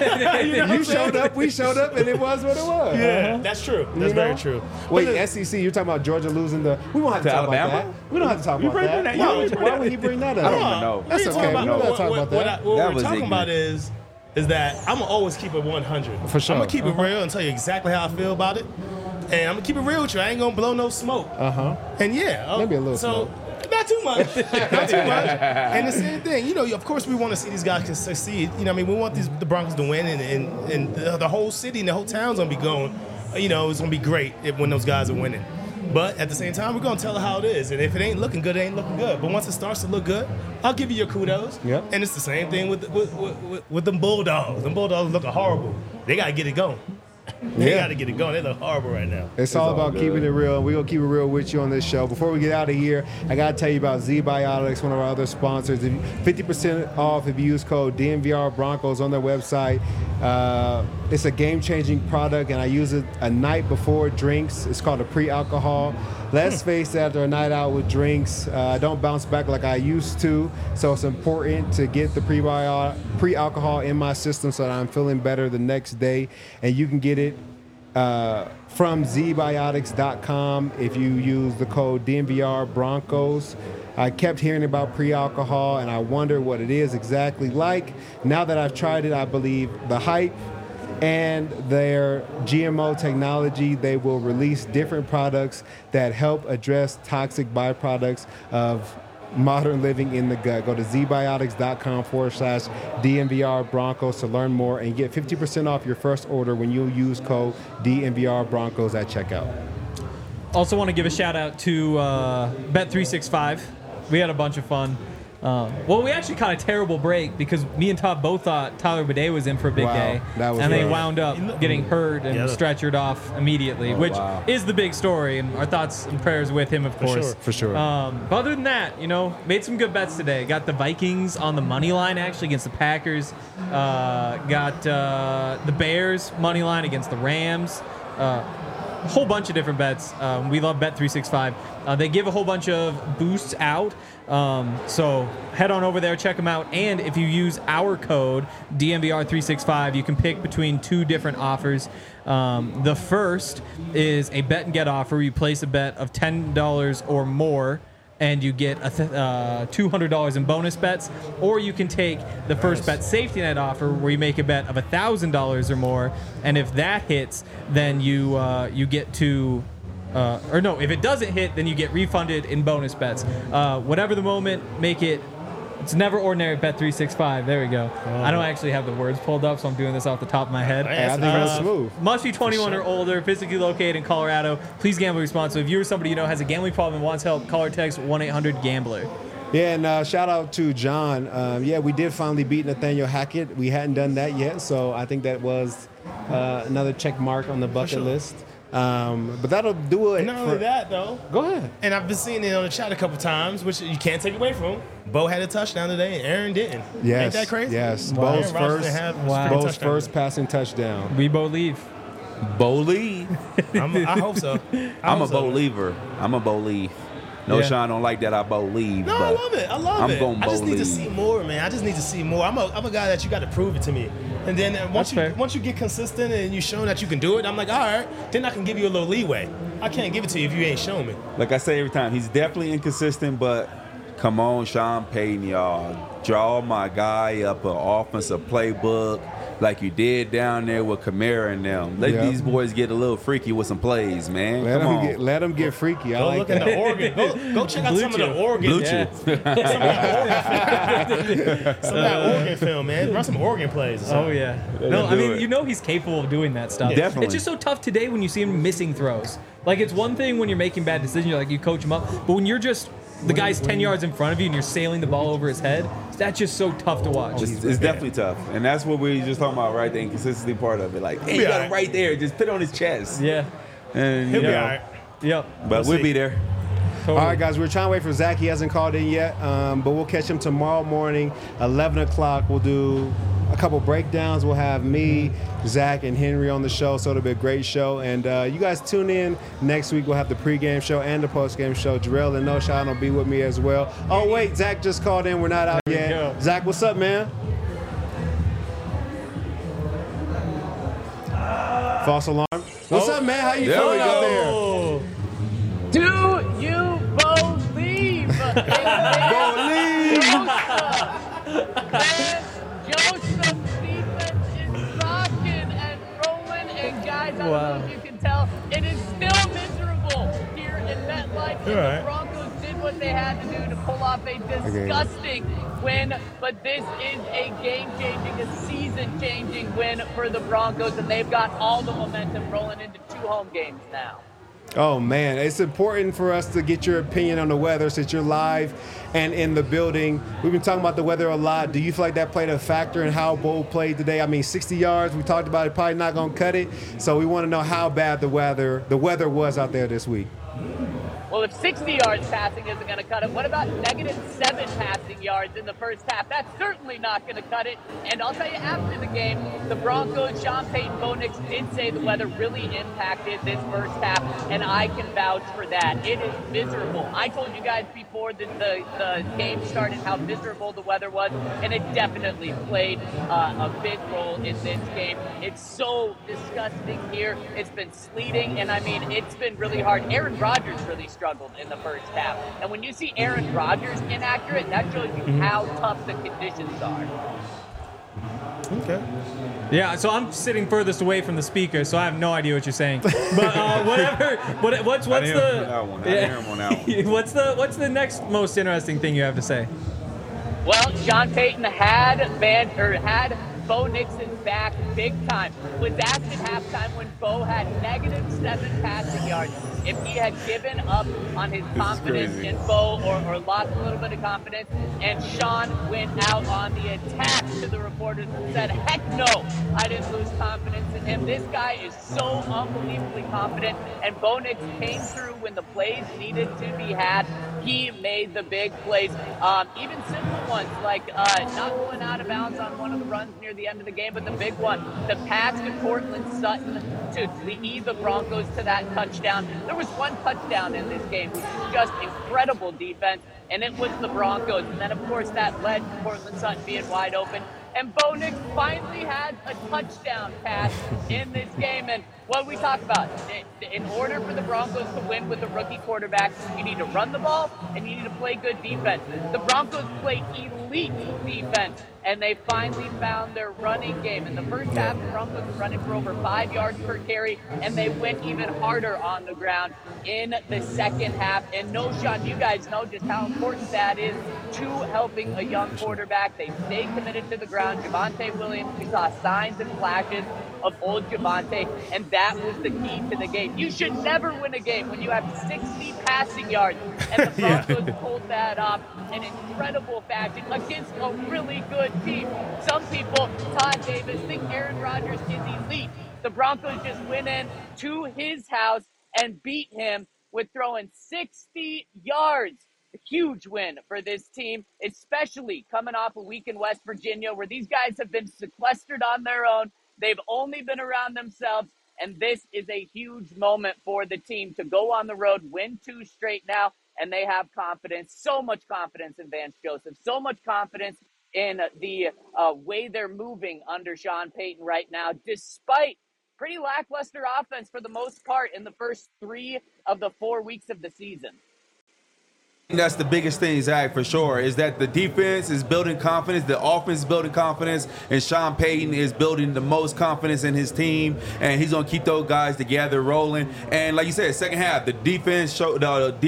You showed up, we showed up, and it was what it was. Yeah, that's true. That's You know? very true. Wait, But SEC, you're talking about Georgia losing the. We won't have to To talk about Alabama? that. We don't have to talk You about bring that. that up. Why would he bring that up? I don't even know. That's what okay. we're We don't have to talk about that. What That we're was talking ignorant. about is is that I'm going to always keep it 100. For sure. I'm going to keep it real and tell you exactly how I feel about it. And I'm going to keep it real with you. I ain't going to blow no smoke. And yeah. Maybe a little smoke. Not too much. Not too much. And the same thing, you know, of course we want to see these guys succeed. You know, I mean, we want the Broncos to win, and the whole city and the whole town's going to be going. You know, it's going to be great when those guys are winning. But at the same time, we're going to tell it how it is. And if it ain't looking good, it ain't looking good. But once it starts to look good, I'll give you your kudos. Yep. And it's the same thing with them Bulldogs. Them Bulldogs looking horrible. They got to get it going. They got to get it going. They look horrible right now. It's all about keeping it real. We're going to keep it real with you on this show. Before we get out of here, I got to tell you about Z-Biotics, one of our other sponsors. 50% off if you use code DNVR Broncos on their website. It's a game-changing product, and I use it a night before drinks. It's called a pre-alcohol. Let's face it, after a night out with drinks, I don't bounce back like I used to. So it's important to get the pre-alcohol in my system so that I'm feeling better the next day. And you can get it from zbiotics.com if you use the code DNVR Broncos. I kept hearing about pre-alcohol, and I wonder what it is exactly like. Now that I've tried it, I believe the hype and their GMO technology, they will release different products that help address toxic byproducts of modern living in the gut. Go to zbiotics.com/DNVR Broncos to learn more and get 50% off your first order when you use code DNVR Broncos at checkout. Also want to give a shout out to Bet365. We had a bunch of fun. We actually caught a terrible break because me and Todd both thought Tyler Bidet was in for a big day. And they wound up getting hurt and stretchered off immediately, which is the big story. And our thoughts and prayers with him, of course. For sure. But other than that, you know, made some good bets today. Got the Vikings on the money line, actually, against the Packers. Got the Bears money line against the Rams. A whole bunch of different bets. We love Bet365. They give a whole bunch of boosts out. So head on over there, check them out. And if you use our code, DNVR365, you can pick between two different offers. The first is a bet and get offer. You place a bet of $10 or more, and you get $200 in bonus bets. Or you can take the first bet safety net offer, where you make a bet of $1,000 or more, and if that hits, then you get to if it doesn't hit, then you get refunded in bonus bets. Whatever the moment, make it. It's never ordinary at Bet365. There we go. I don't actually have the words pulled up, so I'm doing this off the top of my head. I think that's smooth. Must be 21 or older, physically located in Colorado. Please gamble responsibly. If you're somebody you know has a gambling problem and wants help, call or text 1-800-GAMBLER. Yeah, and shout out to John. We did finally beat Nathaniel Hackett. We hadn't done that yet, so I think that was another check mark on the bucket list. But that'll do it. And not only that, though. Go ahead. And I've been seeing it on the chat a couple times, which you can't take away from him. Bo had a touchdown today, and Aaron didn't. Yes. Ain't that crazy? Yes. Wow. Bo's first passing touchdown. We believe. Believe. I hope so. I'm a believer. I'm a believe. No, Yeah. Sean don't like that. I believe. No, but I love it. I love I'm it. gonna I just need to believe. see more, man. I just need to see more. I'm a guy that you got to prove it to me. And then That's fair. once you get consistent and you show that you can do it, I'm like, all right, then I can give you a little leeway. I can't give it to you if you ain't showing me. Like I say every time, he's definitely inconsistent, but come on, Sean Payton, y'all. Draw my guy up an offensive playbook like you did down there with Kamara and them. Let these boys get a little freaky with some plays, man. Let them get freaky. I Go like look that. at the Oregon. Go check out some of the Oregon. Blue Yeah. Chew. Some of that Oregon film, man. Run some Oregon plays or something. Oh, yeah. Let No, him I do mean, it. you know he's capable of doing that stuff. Definitely. It's just so tough today when you see him missing throws. Like, it's one thing when you're making bad decisions, you're like, you coach him up. But when you're just, the guy's 10 yards in front of you and you're sailing the ball over his head, that's just so tough to watch. It's definitely tough. And that's what we were just talking about, right? The inconsistency part of it. Like, hey, you got him right there. Just put it on his chest. Yeah. And, He'll you be know, all right. Yep. but we'll be there. Totally. All right, guys, we're trying to wait for Zach. He hasn't called in yet, but we'll catch him tomorrow morning, 11 o'clock. We'll do a couple breakdowns. We'll have me, Zach, and Henry on the show, so it'll be a great show. And you guys tune in next week. We'll have the pregame show and the postgame show. Jarrell and No Shot will be with me as well. Oh, wait, Zach just called in. We're not out There we yet. go. Zach, what's up, man? False alarm. What's up, man? How you There feeling we out go. there? Do you believe? Believe. Joseph Stephen right. The Broncos did what they had to do to pull off a disgusting win, but this is a game-changing, a season-changing win for the Broncos, and they've got all the momentum rolling into 2 home games now. Oh, man, it's important for us to get your opinion on the weather since you're live and in the building. We've been talking about the weather a lot. Do you feel like that played a factor in how Bo played today? I mean, 60 yards, we talked about it, probably not going to cut it. So we want to know how bad the weather was out there this week. Well, if 60 yards passing isn't going to cut it, what about -7 passing yards in the first half? That's certainly not going to cut it. And I'll tell you, after the game, the Broncos, Sean Payton, Bo Nix did say the weather really impacted this first half, and I can vouch for that. It is miserable. I told you guys before that the game started how miserable the weather was, and it definitely played a big role in this game. It's so disgusting here. It's been sleeting, and I mean, it's been really hard. Aaron Rodgers really struggled in the first half. And when you see Aaron Rodgers inaccurate, that shows you how tough the conditions are. Okay. Yeah, so I'm sitting furthest away from the speaker, so I have no idea what you're saying. But whatever. What's I didn't hear the? that one. I didn't hear him on that one. What's the next most interesting thing you have to say? Well, Sean Payton had Bo Nixon's back big time. Was asked at halftime when Bo had -7 passing yards if he had given up on his confidence in Bo or lost a little bit of confidence. And Sean went out on the attack to the reporters and said, heck no, I didn't lose confidence in him. This guy is so unbelievably confident. And Bo Nix came through when the plays needed to be had. He made the big plays, even simple ones like not going out of bounds on one of the runs near the end of the game, but the big one, the pass to Cortland Sutton to lead the Broncos to that touchdown. There was one touchdown in this game, which was just incredible defense, and it was the Broncos. And then, of course, that led to Cortland Sutton being wide open. And Bo Nix finally had a touchdown pass in this game. And what we talk about, in order for the Broncos to win with a rookie quarterback, you need to run the ball and you need to play good defense. The Broncos play elite defense, and they finally found their running game. In the first half, the Broncos were running for over 5 yards per carry, and they went even harder on the ground in the second half. And no, Sean, you guys know just how important that is to helping a young quarterback. They stay committed to the ground. Javonte Williams, we saw signs and flashes of old Javonte, and that was the key to the game. You should never win a game when you have 60 passing yards, and the Broncos pulled that off in incredible fashion against a really good team. Some people, Todd Davis, think Aaron Rodgers is elite. The Broncos just went in to his house and beat him with throwing 60 yards. A huge win for this team, especially coming off a week in West Virginia where these guys have been sequestered on their own. They've only been around themselves, and this is a huge moment for the team to go on the road, win 2 straight now, and they have confidence, so much confidence in Vance Joseph, so much confidence in the way they're moving under Sean Payton right now, despite pretty lackluster offense for the most part in the first 3 of the 4 weeks of the season. That's the biggest thing, Zach, for sure, is that the defense is building confidence, the offense is building confidence, and Sean Payton is building the most confidence in his team, and he's going to keep those guys together rolling. And like you said, second half, the defense showed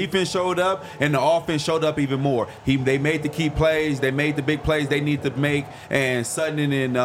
up, and the offense showed up even more. They made the key plays, they made the big plays they need to make, and Sutton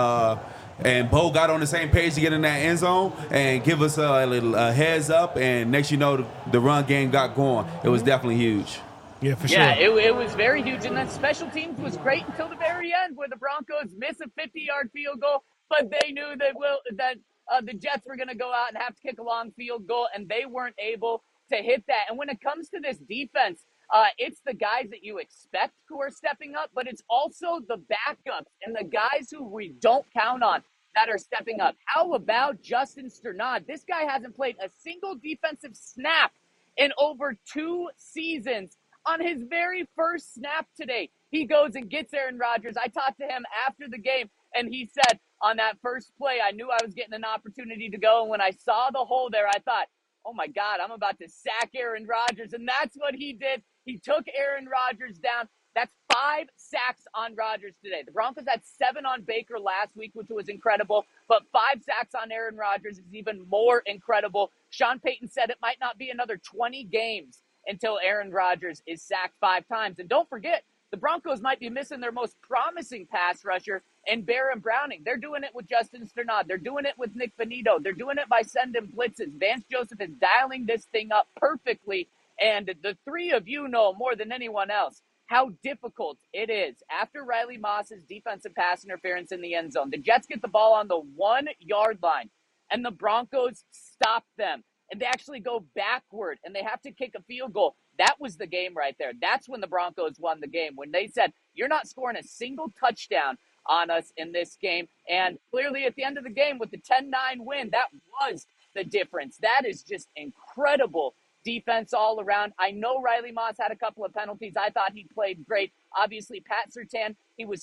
and Bo got on the same page to get in that end zone and give us a little heads up, and next you know, the run game got going. It was definitely huge. Yeah, for sure. Yeah, it was very huge. And then special teams was great until the very end where the Broncos miss a 50-yard field goal, but they knew that the Jets were going to go out and have to kick a long field goal, and they weren't able to hit that. And when it comes to this defense, it's the guys that you expect who are stepping up, but it's also the backups and the guys who we don't count on that are stepping up. How about Justin Strnad? This guy hasn't played a single defensive snap in over 2 seasons. On his very first snap today, he goes and gets Aaron Rodgers. I talked to him after the game, and he said, on that first play, I knew I was getting an opportunity to go. And when I saw the hole there, I thought, oh, my God, I'm about to sack Aaron Rodgers. And that's what he did. He took Aaron Rodgers down. That's 5 sacks on Rodgers today. The Broncos had 7 on Baker last week, which was incredible. But 5 sacks on Aaron Rodgers is even more incredible. Sean Payton said it might not be another 20 games until Aaron Rodgers is sacked 5 times. And don't forget, the Broncos might be missing their most promising pass rusher in Baron Browning. They're doing it with Justin Strnad. They're doing it with Nick Bonito. They're doing it by sending blitzes. Vance Joseph is dialing this thing up perfectly. And the three of you know more than anyone else how difficult it is after Riley Moss's defensive pass interference in the end zone. The Jets get the ball on the 1 yard line, and the Broncos stop them. And they actually go backward, and they have to kick a field goal. That was the game right there. That's when the Broncos won the game, when they said, you're not scoring a single touchdown on us in this game. And clearly at the end of the game with the 10-9 win, that was the difference. That is just incredible defense all around. I know Riley Moss had a couple of penalties. I thought he played great. Obviously, Pat Surtain,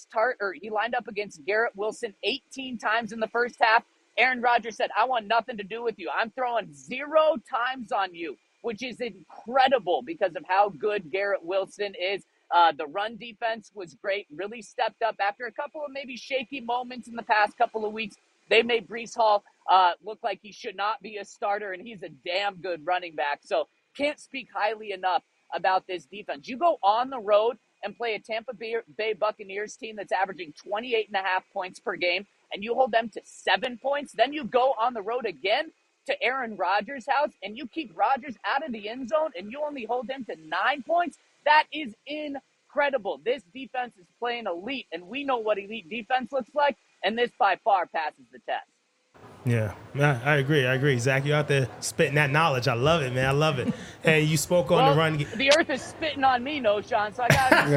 he lined up against Garrett Wilson 18 times in the first half. Aaron Rodgers said, I want nothing to do with you. I'm throwing 0 times on you, which is incredible because of how good Garrett Wilson is. The run defense was great, really stepped up after a couple of maybe shaky moments in the past couple of weeks. They made Breece Hall look like he should not be a starter, and he's a damn good running back. So can't speak highly enough about this defense. You go on the road and play a Tampa Bay Buccaneers team that's averaging 28.5 points per game, and you hold them to 7 points. Then you go on the road again to Aaron Rodgers' house, and you keep Rodgers out of the end zone, and you only hold him to 9 points. That is incredible. This defense is playing elite, and we know what elite defense looks like, and this by far passes the test. Yeah, I agree. Zach, you're out there spitting that knowledge. I love it, man. I love it. And you spoke on the run. The earth is spitting on me, no, Sean, so I got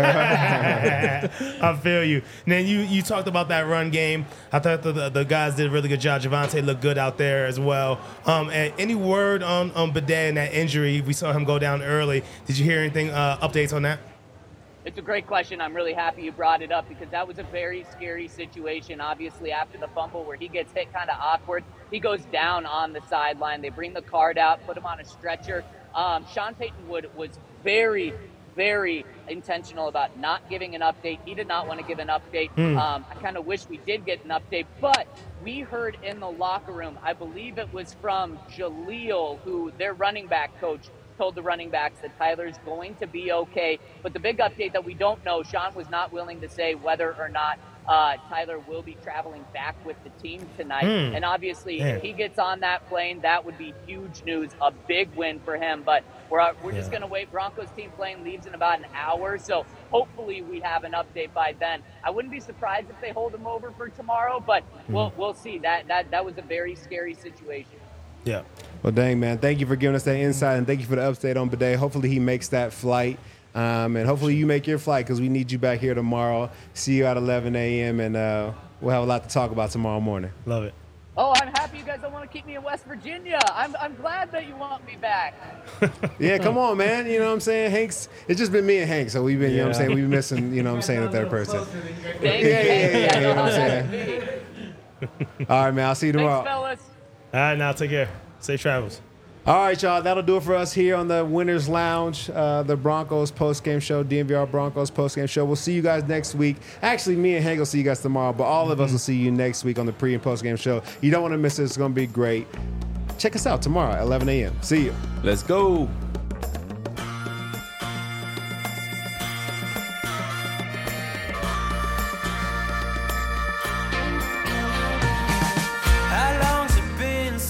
to I feel you. And then you talked about that run game. I thought the guys did a really good job. Javonte looked good out there as well. And any word on Bidet and that injury? We saw him go down early. Did you hear anything, updates on that? It's a great question. I'm really happy you brought it up because that was a very scary situation. Obviously, after the fumble where he gets hit kind of awkward, he goes down on the sideline. They bring the card out, put him on a stretcher. Sean Payton Wood was very, very intentional about not giving an update. He did not want to give an update. I kind of wish we did get an update, but we heard in the locker room, I believe it was from Jaleel, who their running back coach told the running backs that Tyler's going to be okay. But the big update that we don't know, Sean was not willing to say whether or not Tyler will be traveling back with the team tonight. And obviously, if he gets on that plane, that would be huge news, a big win for him. But we're just going to wait. Broncos team plane leaves in about an hour, so hopefully we have an update by then. I wouldn't be surprised if they hold him over for tomorrow, but we'll see. That was a very scary situation. Yeah. Well, dang, man. Thank you for giving us that insight, and thank you for the update on Bidet. Hopefully he makes that flight, and hopefully you make your flight because we need you back here tomorrow. See you at 11 a.m., and we'll have a lot to talk about tomorrow morning. Love it. Oh, I'm happy you guys don't want to keep me in West Virginia. I'm glad that you want me back. Yeah, come on, man. You know what I'm saying? Hank's, it's just been me and Hank, so we've been, you know what I'm saying, we've been missing, you know what I'm saying, the third person. Thank you. Yeah, I know you know how what I'm that saying? would be. All right, man. I'll see you tomorrow. Thanks, fellas. All right, now take care. Safe travels. All right, y'all. That'll do it for us here on the Winners Lounge, the Broncos postgame show, DNVR Broncos postgame show. We'll see you guys next week. Actually, me and Hank will see you guys tomorrow, but all of us will see you next week on the pre and postgame show. You don't want to miss it. It's going to be great. Check us out tomorrow at 11 a.m. See you. Let's go.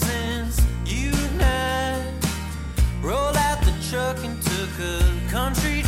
Truck and took a country